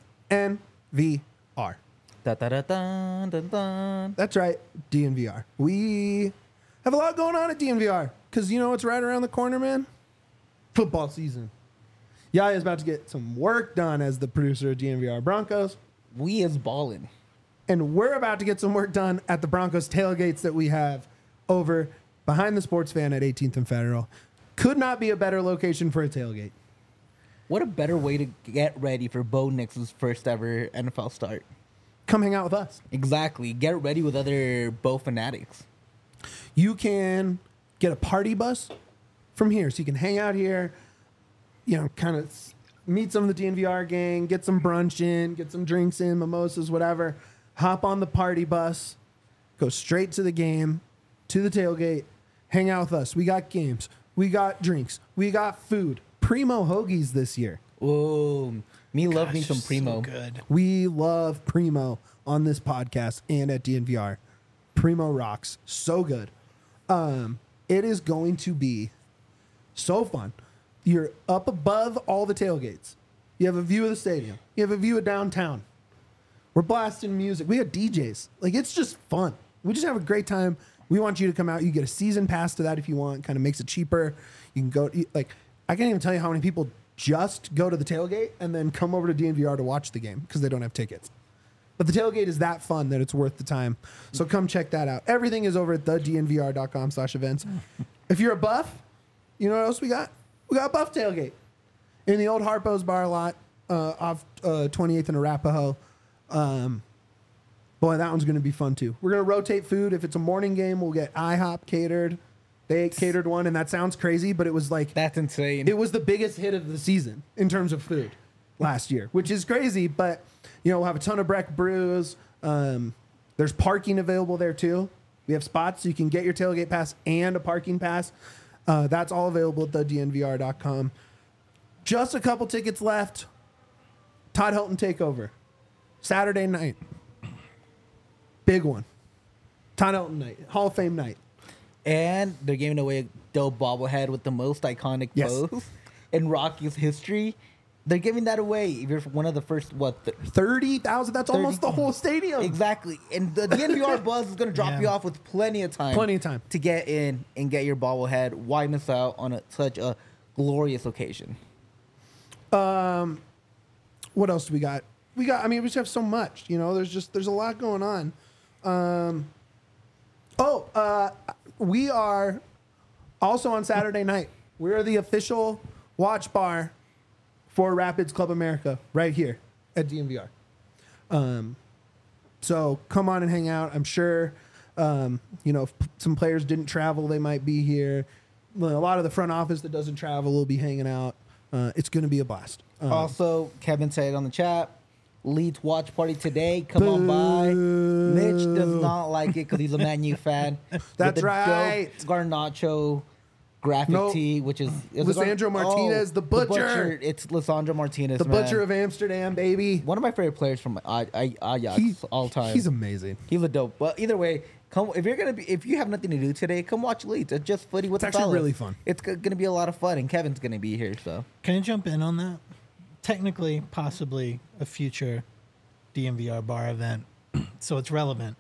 Da, da, da, dun, dun, dun. That's right, DNVR. We have a lot going on at DNVR because you know what's right around the corner, man? Football season. Yaya is about to get some work done as the producer of DNVR Broncos. We is ballin'. And we're about to get some work done at the Broncos tailgates that we have over behind the sports fan at 18th and Federal. Could not be a better location for a tailgate. What a better way to get ready for Bo Nix's first ever NFL start. Come hang out with us. Exactly. Get ready with other Bo fanatics. You can get a party bus from here. So you can hang out here, you know, kind of meet some of the DNVR gang, get some brunch in, get some drinks in, mimosas, whatever. Hop on the party bus, go straight to the game, to the tailgate, hang out with us. We got games, we got drinks, we got food. Primo hoagies this year. Ooh, love me Gosh, some so Primo. good. We love Primo on this podcast and at DNVR. Primo rocks. So good. It is going to be so fun. You're up above all the tailgates. You have a view of the stadium. You have a view of downtown. We're blasting music. We got DJs. Like, it's just fun. We just have a great time. We want you to come out. You get a season pass to that if you want. Kind of makes it cheaper. You can go, like, I can't even tell you how many people just go to the tailgate and then come over to DNVR to watch the game because they don't have tickets. But the tailgate is that fun that it's worth the time. So come check that out. Everything is over at thednvr.com/events. If you're a Buff, you know what else we got? We got a Buff tailgate in the old Harpo's bar lot off 28th and Arapahoe. Boy, that one's going to be fun too. We're going to rotate food. If it's a morning game, we'll get IHOP catered. They catered one, and that sounds crazy, but it was like That's insane. it was the biggest hit of the season in terms of food last year, which is crazy. But you know, we'll have a ton of Breck brews. There's parking available there too. We have spots so you can get your tailgate pass and a parking pass. That's all available at thednvr.com. Just a couple tickets left. Todd Helton takeover Saturday night. Big one. Todd Helton night, Hall of Fame night. And they're giving away a dope bobblehead with the most iconic Yes. pose in Rockies history. They're giving that away if you're one of the first, 30,000. That's almost the whole stadium. Exactly. And the DNVR Buzz is going to drop Yeah. you off with plenty of time. Plenty of time. To get in and get your bobblehead. Why miss out on such a glorious occasion? What else do we got? We just have so much, you know, there's a lot going on. We are also on Saturday night. We're the official watch bar for Rapids Club America right here at DNVR. So come on and hang out. I'm sure, if some players didn't travel, they might be here. Well, a lot of the front office that doesn't travel will be hanging out. It's going to be a blast. Also, Kevin said on the chat, Leeds watch party today. Come on by. Mitch does not like it because he's a Man U fan. That's With the right. dope Garnacho graphic Nope. tee, which is Lisandro Martinez, the butcher. It's Lisandro Martinez, the man. Butcher of Amsterdam, baby. One of my favorite players from Ajax all time. He's amazing. He's a dope. But either way, come if you have nothing to do today, come watch Leeds. It's just footy with It's the actually fellas. really fun. It's gonna be a lot of fun, and Kevin's gonna be here. So Can I jump in on that? Technically, possibly a future DNVR bar event, so it's relevant.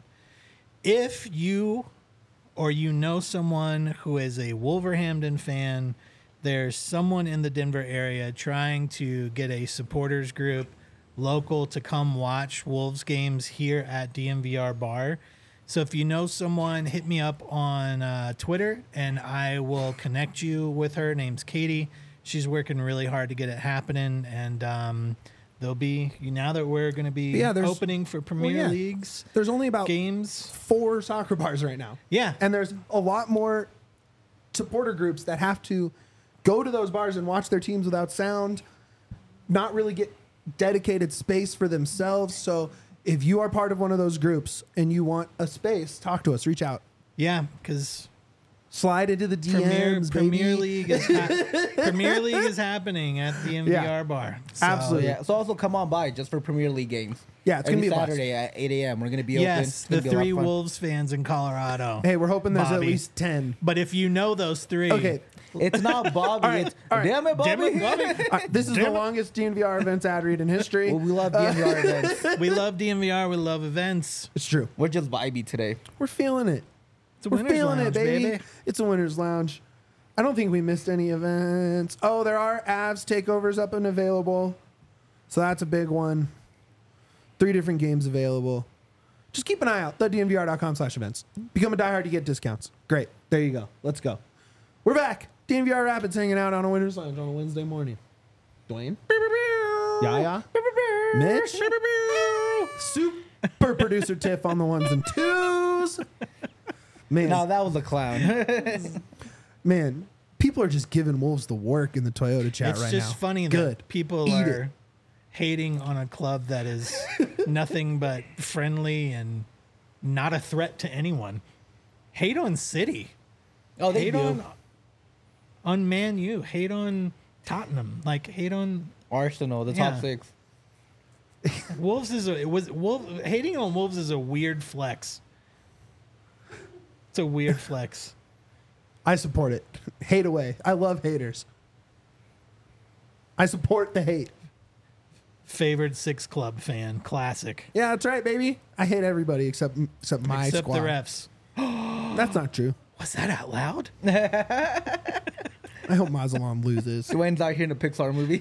If you or you know someone who is a Wolverhampton fan, there's someone in the Denver area trying to get a supporters group local to come watch Wolves games here at DNVR bar. So if you know someone, hit me up on Twitter and I will connect you with her. Her name's Katie. She's working really hard to get it happening, and there'll be, now that we're going to be Yeah, there's- opening for Premier yeah. Leagues There's only about games. 4 soccer bars right now. Yeah. And there's a lot more supporter groups that have to go to those bars and watch their teams without sound, not really get dedicated space for themselves. So if you are part of one of those groups and you want a space, talk to us, reach out. Yeah, because Slide into the DMs, Premier baby. League is Premier League is happening at the MVR Yeah. bar. So, Absolutely. yeah. So also come on by just for Premier League games. Yeah, it's gonna Every be a blast. Saturday at 8 a.m. We're gonna be open. Yes, It's gonna the be a lot of 3 fun. Wolves fans in Colorado. Hey, we're hoping there's at Bobby. least 10. But if you know those 3, Okay. It's not Bobby. All right, It's all right. damn it, Bobby. Damn it, Bobby. All right, this is the Damn it. longest DNVR events ad read in history. Well, we love DNVR events. we love DNVR, we love events. It's true. We're just vibey today. We're feeling it. It's a We're winner's feeling lounge, it, baby. It's a winner's lounge. I don't think we missed any events. Oh, there are Avs takeovers up and available. So that's a big one. 3 different games available. Just keep an eye out. thednvr.com/events. Become a diehard to get discounts. Great. There you go. Let's go. We're back. DNVR Rapids hanging out on a winner's lounge on a Wednesday morning. Dwayne? Yaya? Mitch? Super producer Tiff on the ones and twos. Man. No, that was a clown. Man, People are just giving Wolves the work in the Toyota chat It's right now. just funny Good. that people Eat are it. hating on a club that is nothing but friendly and not a threat to anyone. Hate on City. Oh, they Hate do. on Man U. Hate on Tottenham. Like hate on Arsenal, the Yeah. top 6. Wolves hating on Wolves is a weird flex. It's a weird flex. I support it. Hate away. I love haters. I support the hate. Favored 6 club fan. Classic. Yeah, that's right, baby. I hate everybody except my Except squad. the refs. That's not true. Was that out loud? I hope Mazalon loses. Dwayne's out here in a Pixar movie.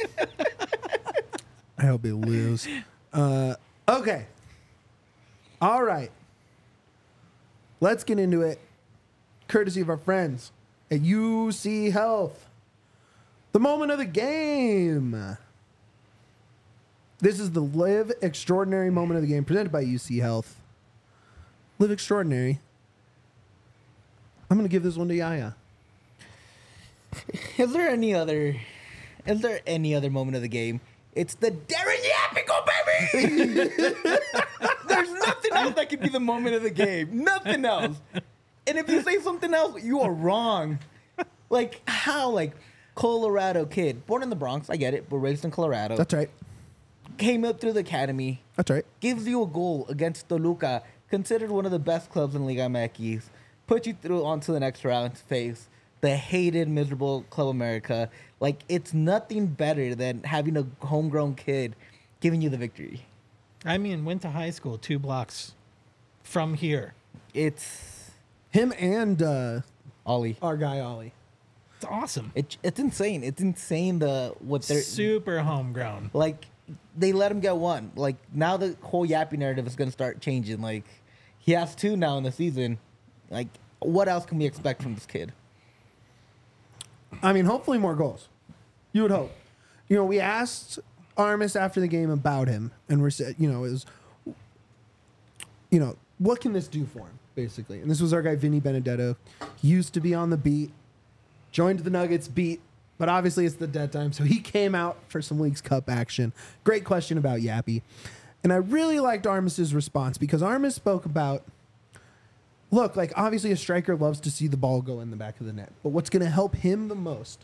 I hope they lose. Okay. All right. Let's get into it. Courtesy of our friends at UC Health. The moment of the game. This is the Live Extraordinary moment of the game presented by UC Health. Live Extraordinary. I'm going to give this one to Yaya. Is there any other moment of the game? It's the Darren Yapico, baby! There's nothing else that could be the moment of the game. Nothing else. And if you say something else, you are wrong. Like, how? Like, Colorado kid, born in the Bronx, I get it, but raised in Colorado. That's right. Came up through the academy, That's right. gives you a goal against Toluca, considered one of the best clubs in Liga MX, put you through onto the next round to face the hated, miserable Club America. Like, it's nothing better than having a homegrown kid giving you the victory. I mean, went to high school 2 blocks from here. It's Him and Ollie. our guy, Ollie. It's awesome. It's insane. It's insane what they're Super homegrown. like. They let him get one. Like, now the whole Yappy narrative is going to start changing. Like, he has 2 now in the season. Like, what else can we expect from this kid? I mean, hopefully more goals. You would hope. You know, we asked Armis after the game about him, and we're said, what can this do for him, basically? And this was our guy, Vinny Benedetto. He used to be on the beat, joined the Nuggets beat, but obviously it's the dead time, so he came out for some Leagues Cup action. Great question about Yappy. And I really liked Armis's response because Armis spoke about, look, like obviously a striker loves to see the ball go in the back of the net, but what's going to help him the most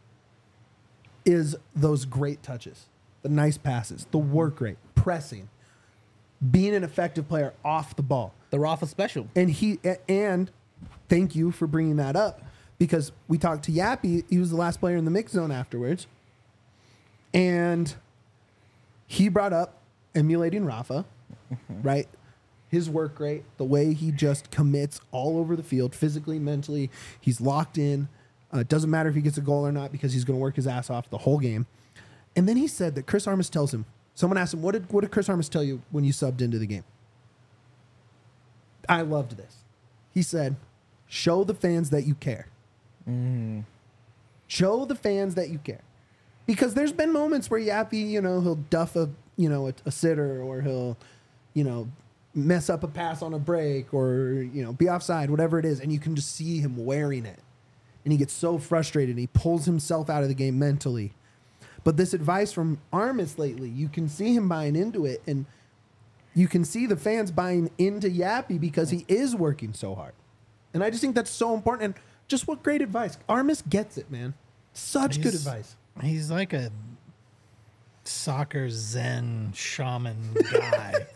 is those great touches, the nice passes, the work rate, pressing, being an effective player off the ball. The Rafa special. And thank you for bringing that up because we talked to Yappy. He was the last player in the mix zone afterwards. And he brought up emulating Rafa, right? His work rate, the way he just commits all over the field, physically, mentally. He's locked in. It doesn't matter if he gets a goal or not because he's going to work his ass off the whole game. And then he said that Chris Armas tells him, someone asked him, what did Chris Armas tell you when you subbed into the game? I loved this. He said, show the fans that you care. Show the fans that you care. Because there's been moments where Yappy, he'll duff a sitter or he'll, mess up a pass on a break or, be offside, whatever it is. And you can just see him wearing it. And he gets so frustrated and he pulls himself out of the game mentally. But this advice from Armis lately, you can see him buying into it. And you can see the fans buying into Yappy because he is working so hard. And I just think that's so important. And just what great advice. Armis gets it, man. Such good advice. He's like a soccer zen shaman guy.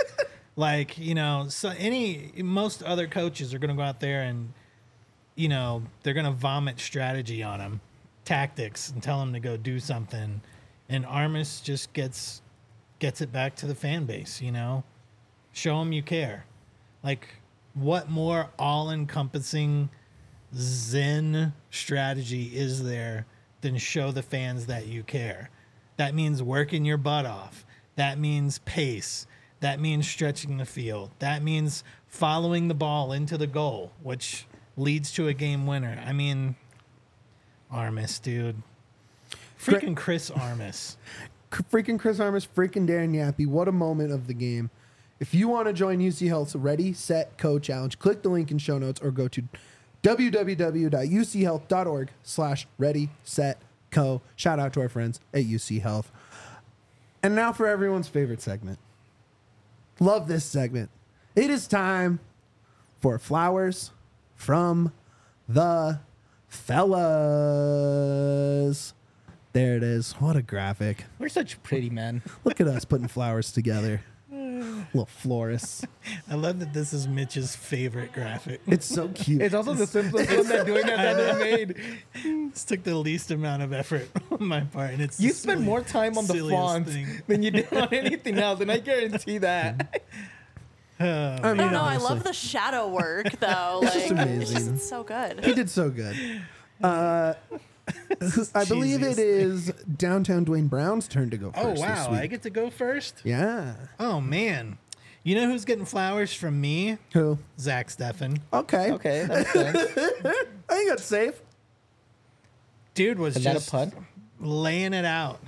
Most other coaches are going to go out there and, they're going to vomit strategy on him, tactics, and tell him to go do something. And Armis just gets it back to the fan base, Show him you care. Like, what more all-encompassing zen strategy is there than show the fans that you care? That means working your butt off. That means pace. That means stretching the field. That means following the ball into the goal, which leads to a game winner. I mean, Armis, dude. Freaking Chris Armis. Freaking Chris Armis, freaking Darren Yappy. What a moment of the game. If you want to join UC Health's Ready, Set, Go challenge, click the link in show notes or go to www.uchealth.org/ready-set-co. Shout out to our friends at UC Health. And now for everyone's favorite segment. Love this segment. It is time for flowers from the fellas. There it is. What a graphic. We're such pretty men. Look at us putting flowers together. Little florists. I love that this is Mitch's favorite graphic. It's so cute. It's also the simplest one that doing that ever made. This took the least amount of effort on my part, and it's You the spend more time on the silliest fonts thing. than you did on anything else, and I guarantee that. I I don't know. I honestly, love the shadow work, though. Like, just amazing. It's so good. He did so good. I believe it cheesiest is downtown Dwayne Brown's turn to go Oh first. wow, this I week. get to go first. Yeah. Oh man, you know who's getting flowers from me? Who? Zach Steffen. Okay. Okay, that makes sense. I think that's safe. Dude was Is that a just pun? laying it out.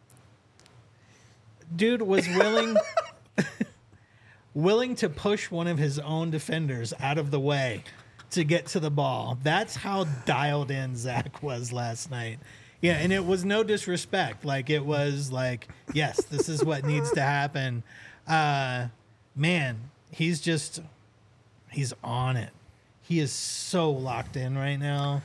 Dude was willing to push one of his own defenders out of the way to get to the ball. That's how dialed in Zach was last night. Yeah, and it was no disrespect. Like, it was like, yes, this is what needs to happen. Man, he's on it. He is so locked in right now.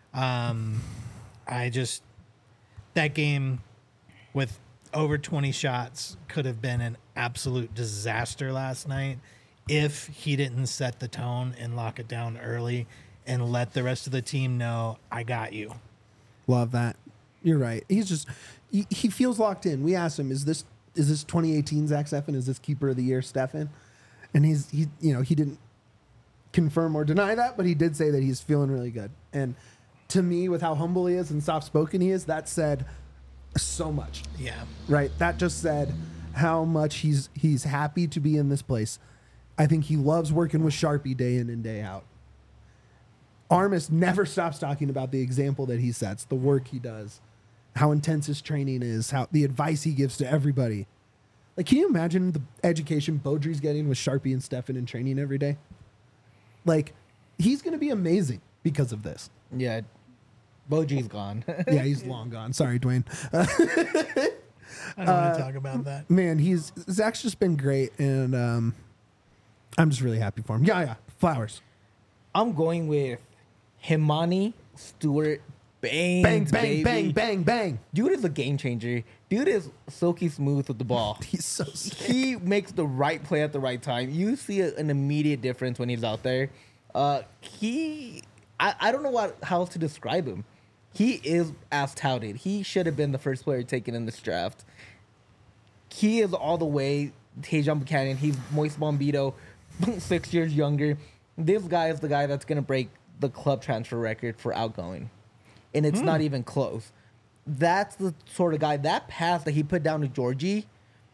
That game with over 20 shots could have been an absolute disaster last night if he didn't set the tone and lock it down early and let the rest of the team know, I got you. Love that. You're right. He's just he feels locked in. We asked him, is this 2018 Zach Steffen? Is this keeper of the year Steffen? And he didn't confirm or deny that, but he did say that he's feeling really good. And to me, with how humble he is and soft spoken he is, that said so much. Yeah. Right. That just said how much he's happy to be in this place. I think he loves working with Sharpie day in and day out. Armis never stops talking about the example that he sets, the work he does, how intense his training is, how the advice he gives to everybody. Like, can you imagine the education Beaudry's getting with Sharpie and Steffen in training every day? Like, he's going to be amazing because of this. Yeah, Boji's gone. Yeah, he's long gone. Sorry, Dwayne. I don't want to talk about that. Man, Zach's just been great, and I'm just really happy for him. Yeah, flowers. I'm going with Himani Stewart. Bang, Bang, bang, bang, bang, bang. Dude is a game changer. Dude is silky smooth with the ball. He's so sick. He makes the right play at the right time. You see an immediate difference when he's out there. I don't know how else to describe him. He is as touted. He should have been the first player taken in this draft. He is all the way Tajon Buchanan. He's Moise Bombito, 6 years younger. This guy is the guy that's going to break the club transfer record for outgoing. And it's not even close. That's the sort of guy, that pass that he put down to Georgie,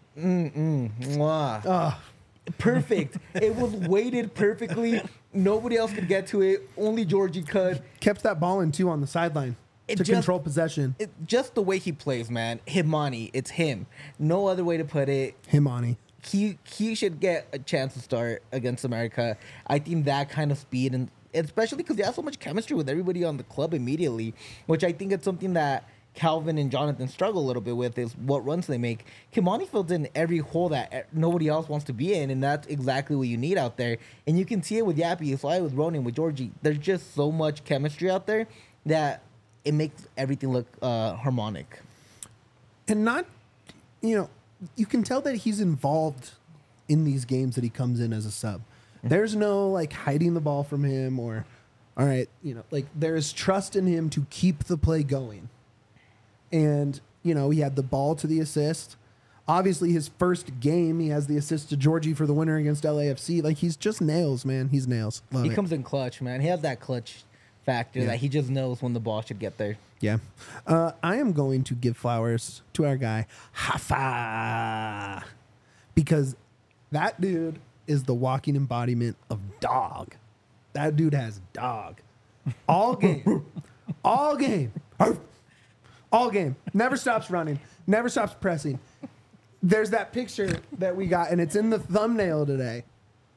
mwah. Perfect. It was weighted perfectly. Nobody else could get to it. Only Georgie could. Kept that ball in, too, on the sideline to control possession. Just the way he plays, man. Himani, it's him. No other way to put it. Himani. He should get a chance to start against America. I think that kind of speed, and especially because he has so much chemistry with everybody on the club immediately, which I think it's something that Calvin and Jonathan struggle a little bit with, is what runs they make. Kimani fills in every hole that nobody else wants to be in, and that's exactly what you need out there. And you can see it with Yappy, Fly, with Ronan, with Georgie. There's just so much chemistry out there that it makes everything look harmonic. And you can tell that he's involved in these games that he comes in as a sub. There's no, like, hiding the ball from him or, all right, there's trust in him to keep the play going. And, he had the ball to the assist. Obviously, his first game, he has the assist to Georgie for the winner against LAFC. Like, he's just nails, man. He's nails. Love He it. comes in clutch, man. He has that clutch factor that he just knows when the ball should get there. Yeah. I am going to give flowers to our guy, Hafa. Because that dude is the walking embodiment of dog. That dude has dog. All game. All game. All game. Never stops running. Never stops pressing. There's that picture that we got, and it's in the thumbnail today.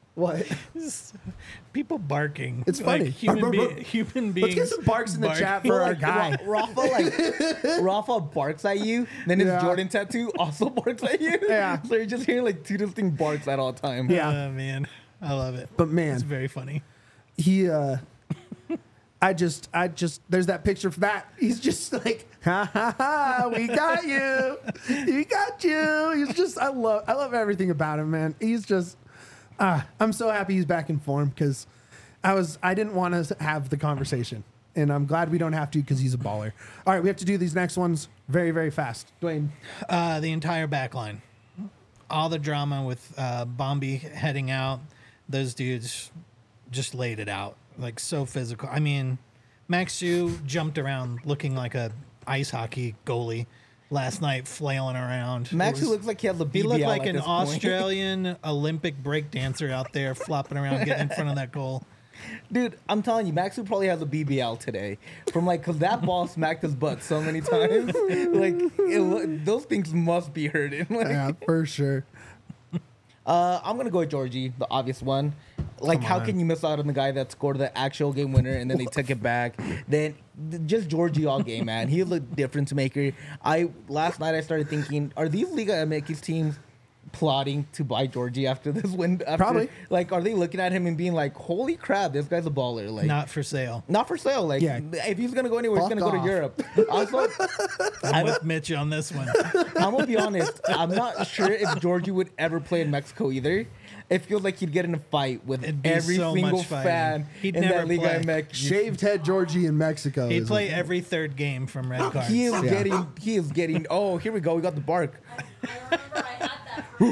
What? People barking. It's funny. Like human beings. Let's get some barks in the chat for our guy. Rafa barks at you, then his Yeah. Jordan tattoo also barks at you. Yeah. So you're just hearing like two distinct barks at all times. Yeah. Man, I love it. But man, It's very funny. he I just there's that picture for that. He's just like, ha ha ha, we got you. We got you. He's just I love everything about him, man. He's just I'm so happy he's back in form because I didn't want to have the conversation. And I'm glad we don't have to because he's a baller. All right, we have to do these next ones very, very fast. Dwayne. The entire back line. All the drama with Bombi heading out. Those dudes just laid it out. Like, so physical. I mean, Max Hsu jumped around looking like a ice hockey goalie last night, flailing around. Max looks like he has a BBL. He looked like at an this point. Australian Olympic break dancer out there flopping around, getting in front of that goal. Dude, I'm telling you, Max probably has a BBL today from like, cause that ball smacked his butt so many times. Those things must be hurting. Yeah, for sure. I'm gonna go with Georgie, the obvious one. Like, how can you miss out on the guy that scored the actual game winner and then they took it back? Then just Georgie all game, man. He's a difference maker. Last night I started thinking, are these Liga MX teams plotting to buy Georgie after this win? Probably. Like, are they looking at him and being like, holy crap, this guy's a baller? Like, Not for sale. not for sale. Like, Yeah. if he's gonna go anywhere, he's Fuck gonna go off. to Europe. Also, I'm with Mitch on this one. I'm gonna be honest. I'm not sure if Georgie would ever play in Mexico either. It feels like he'd get in a fight with It'd be every so single much fighting. fan He'd in never that Liga play. MX. Shaved head Georgie in Mexico. He'd is play what- every third game from red cards. He is Yeah. getting. Oh, here we go. We got the bark. I remember I had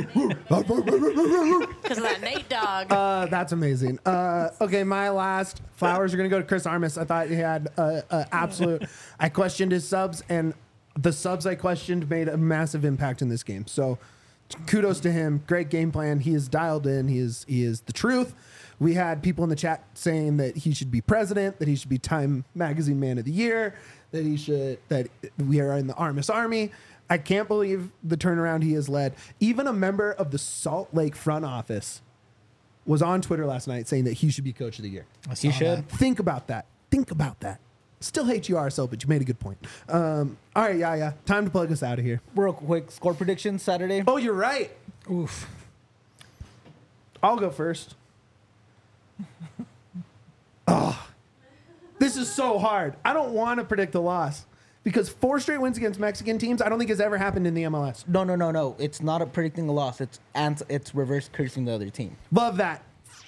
that because of that Nate dog. That's amazing. Okay, my last flowers are going to go to Chris Armas. I thought he had absolute. I questioned his subs, and the subs I questioned made a massive impact in this game. So kudos to him. Great game plan. He is dialed in. He is the truth. We had people in the chat saying that he should be president, that he should be Time Magazine Man of the Year, that we are in the Armas Army. I can't believe the turnaround he has led. Even a member of the Salt Lake front office was on Twitter last night saying that he should be Coach of the Year. I saw He should. that. Think about that. Think about that. Still hate you, RSL, but you made a good point. All right, yeah. Time to plug us out of here. Real quick, score prediction Saturday. Oh, you're right. Oof. I'll go first. This is so hard. I don't want to predict a loss because 4 straight wins against Mexican teams, I don't think has ever happened in the MLS. No. It's not a predicting a loss. It's reverse cursing the other team. Love that.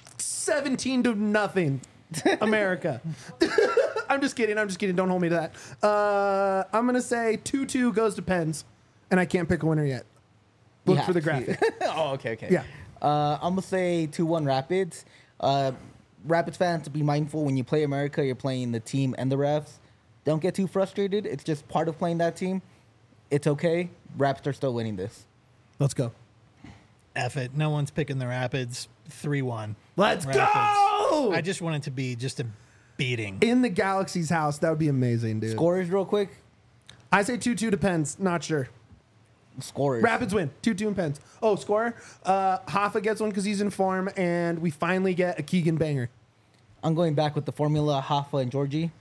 17-0, America. I'm just kidding. Don't hold me to that. I'm going to say 2-2 goes to Pens, and I can't pick a winner yet. Look You for the have to. graphic. Oh, okay. Yeah. I'm gonna say 2-1 Rapids. Rapids fans, be mindful when you play America, you're playing the team and the refs. Don't get too frustrated. It's just part of playing that team. It's okay. Rapids are still winning this. Let's go. F it. No one's picking the Rapids. 3-1. Let's Rapids. go! I just want it to be just a beating. In the Galaxy's house. That would be amazing, dude. Scorers, real quick. I say 2-2 to Pens. Not sure. Scorers. Rapids win. 2-2 in Pens. Oh, scorer. Hoffa gets one because he's in form, and we finally get a Keegan banger. I'm going back with the formula, Hoffa and Georgie.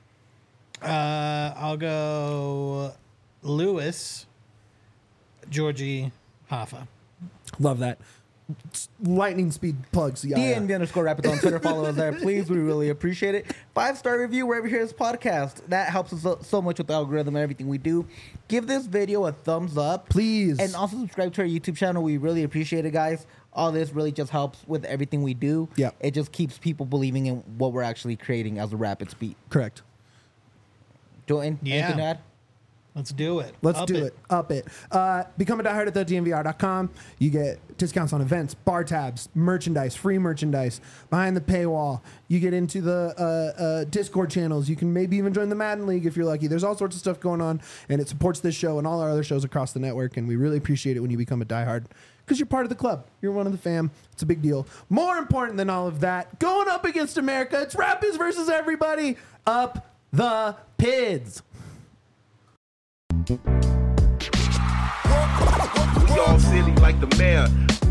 I'll go Lewis, Georgie, Hoffa. Love that. Lightning speed plugs. Yeah. DNV_Rapids on Twitter. Follow us there, please. We really appreciate it. 5-star review wherever you hear this podcast. That helps us so much with the algorithm and everything we do. Give this video a thumbs up. Please. And also subscribe to our YouTube channel. We really appreciate it, guys. All this really just helps with everything we do. Yeah. It just keeps people believing in what we're actually creating as a Rapids beat. Correct. Join? Yeah. Anything to add? Let's do it. Let's Up do it. Up it. Become a diehard at thednvr.com. You get discounts on events, bar tabs, merchandise, free merchandise, behind the paywall. You get into the Discord channels. You can maybe even join the Madden League if you're lucky. There's all sorts of stuff going on, and it supports this show and all our other shows across the network, and we really appreciate it when you become a diehard because you're part of the club. You're one of the fam. It's a big deal. More important than all of that, going up against America, it's Rapids versus everybody. Up the Pids. We all silly like the mayor.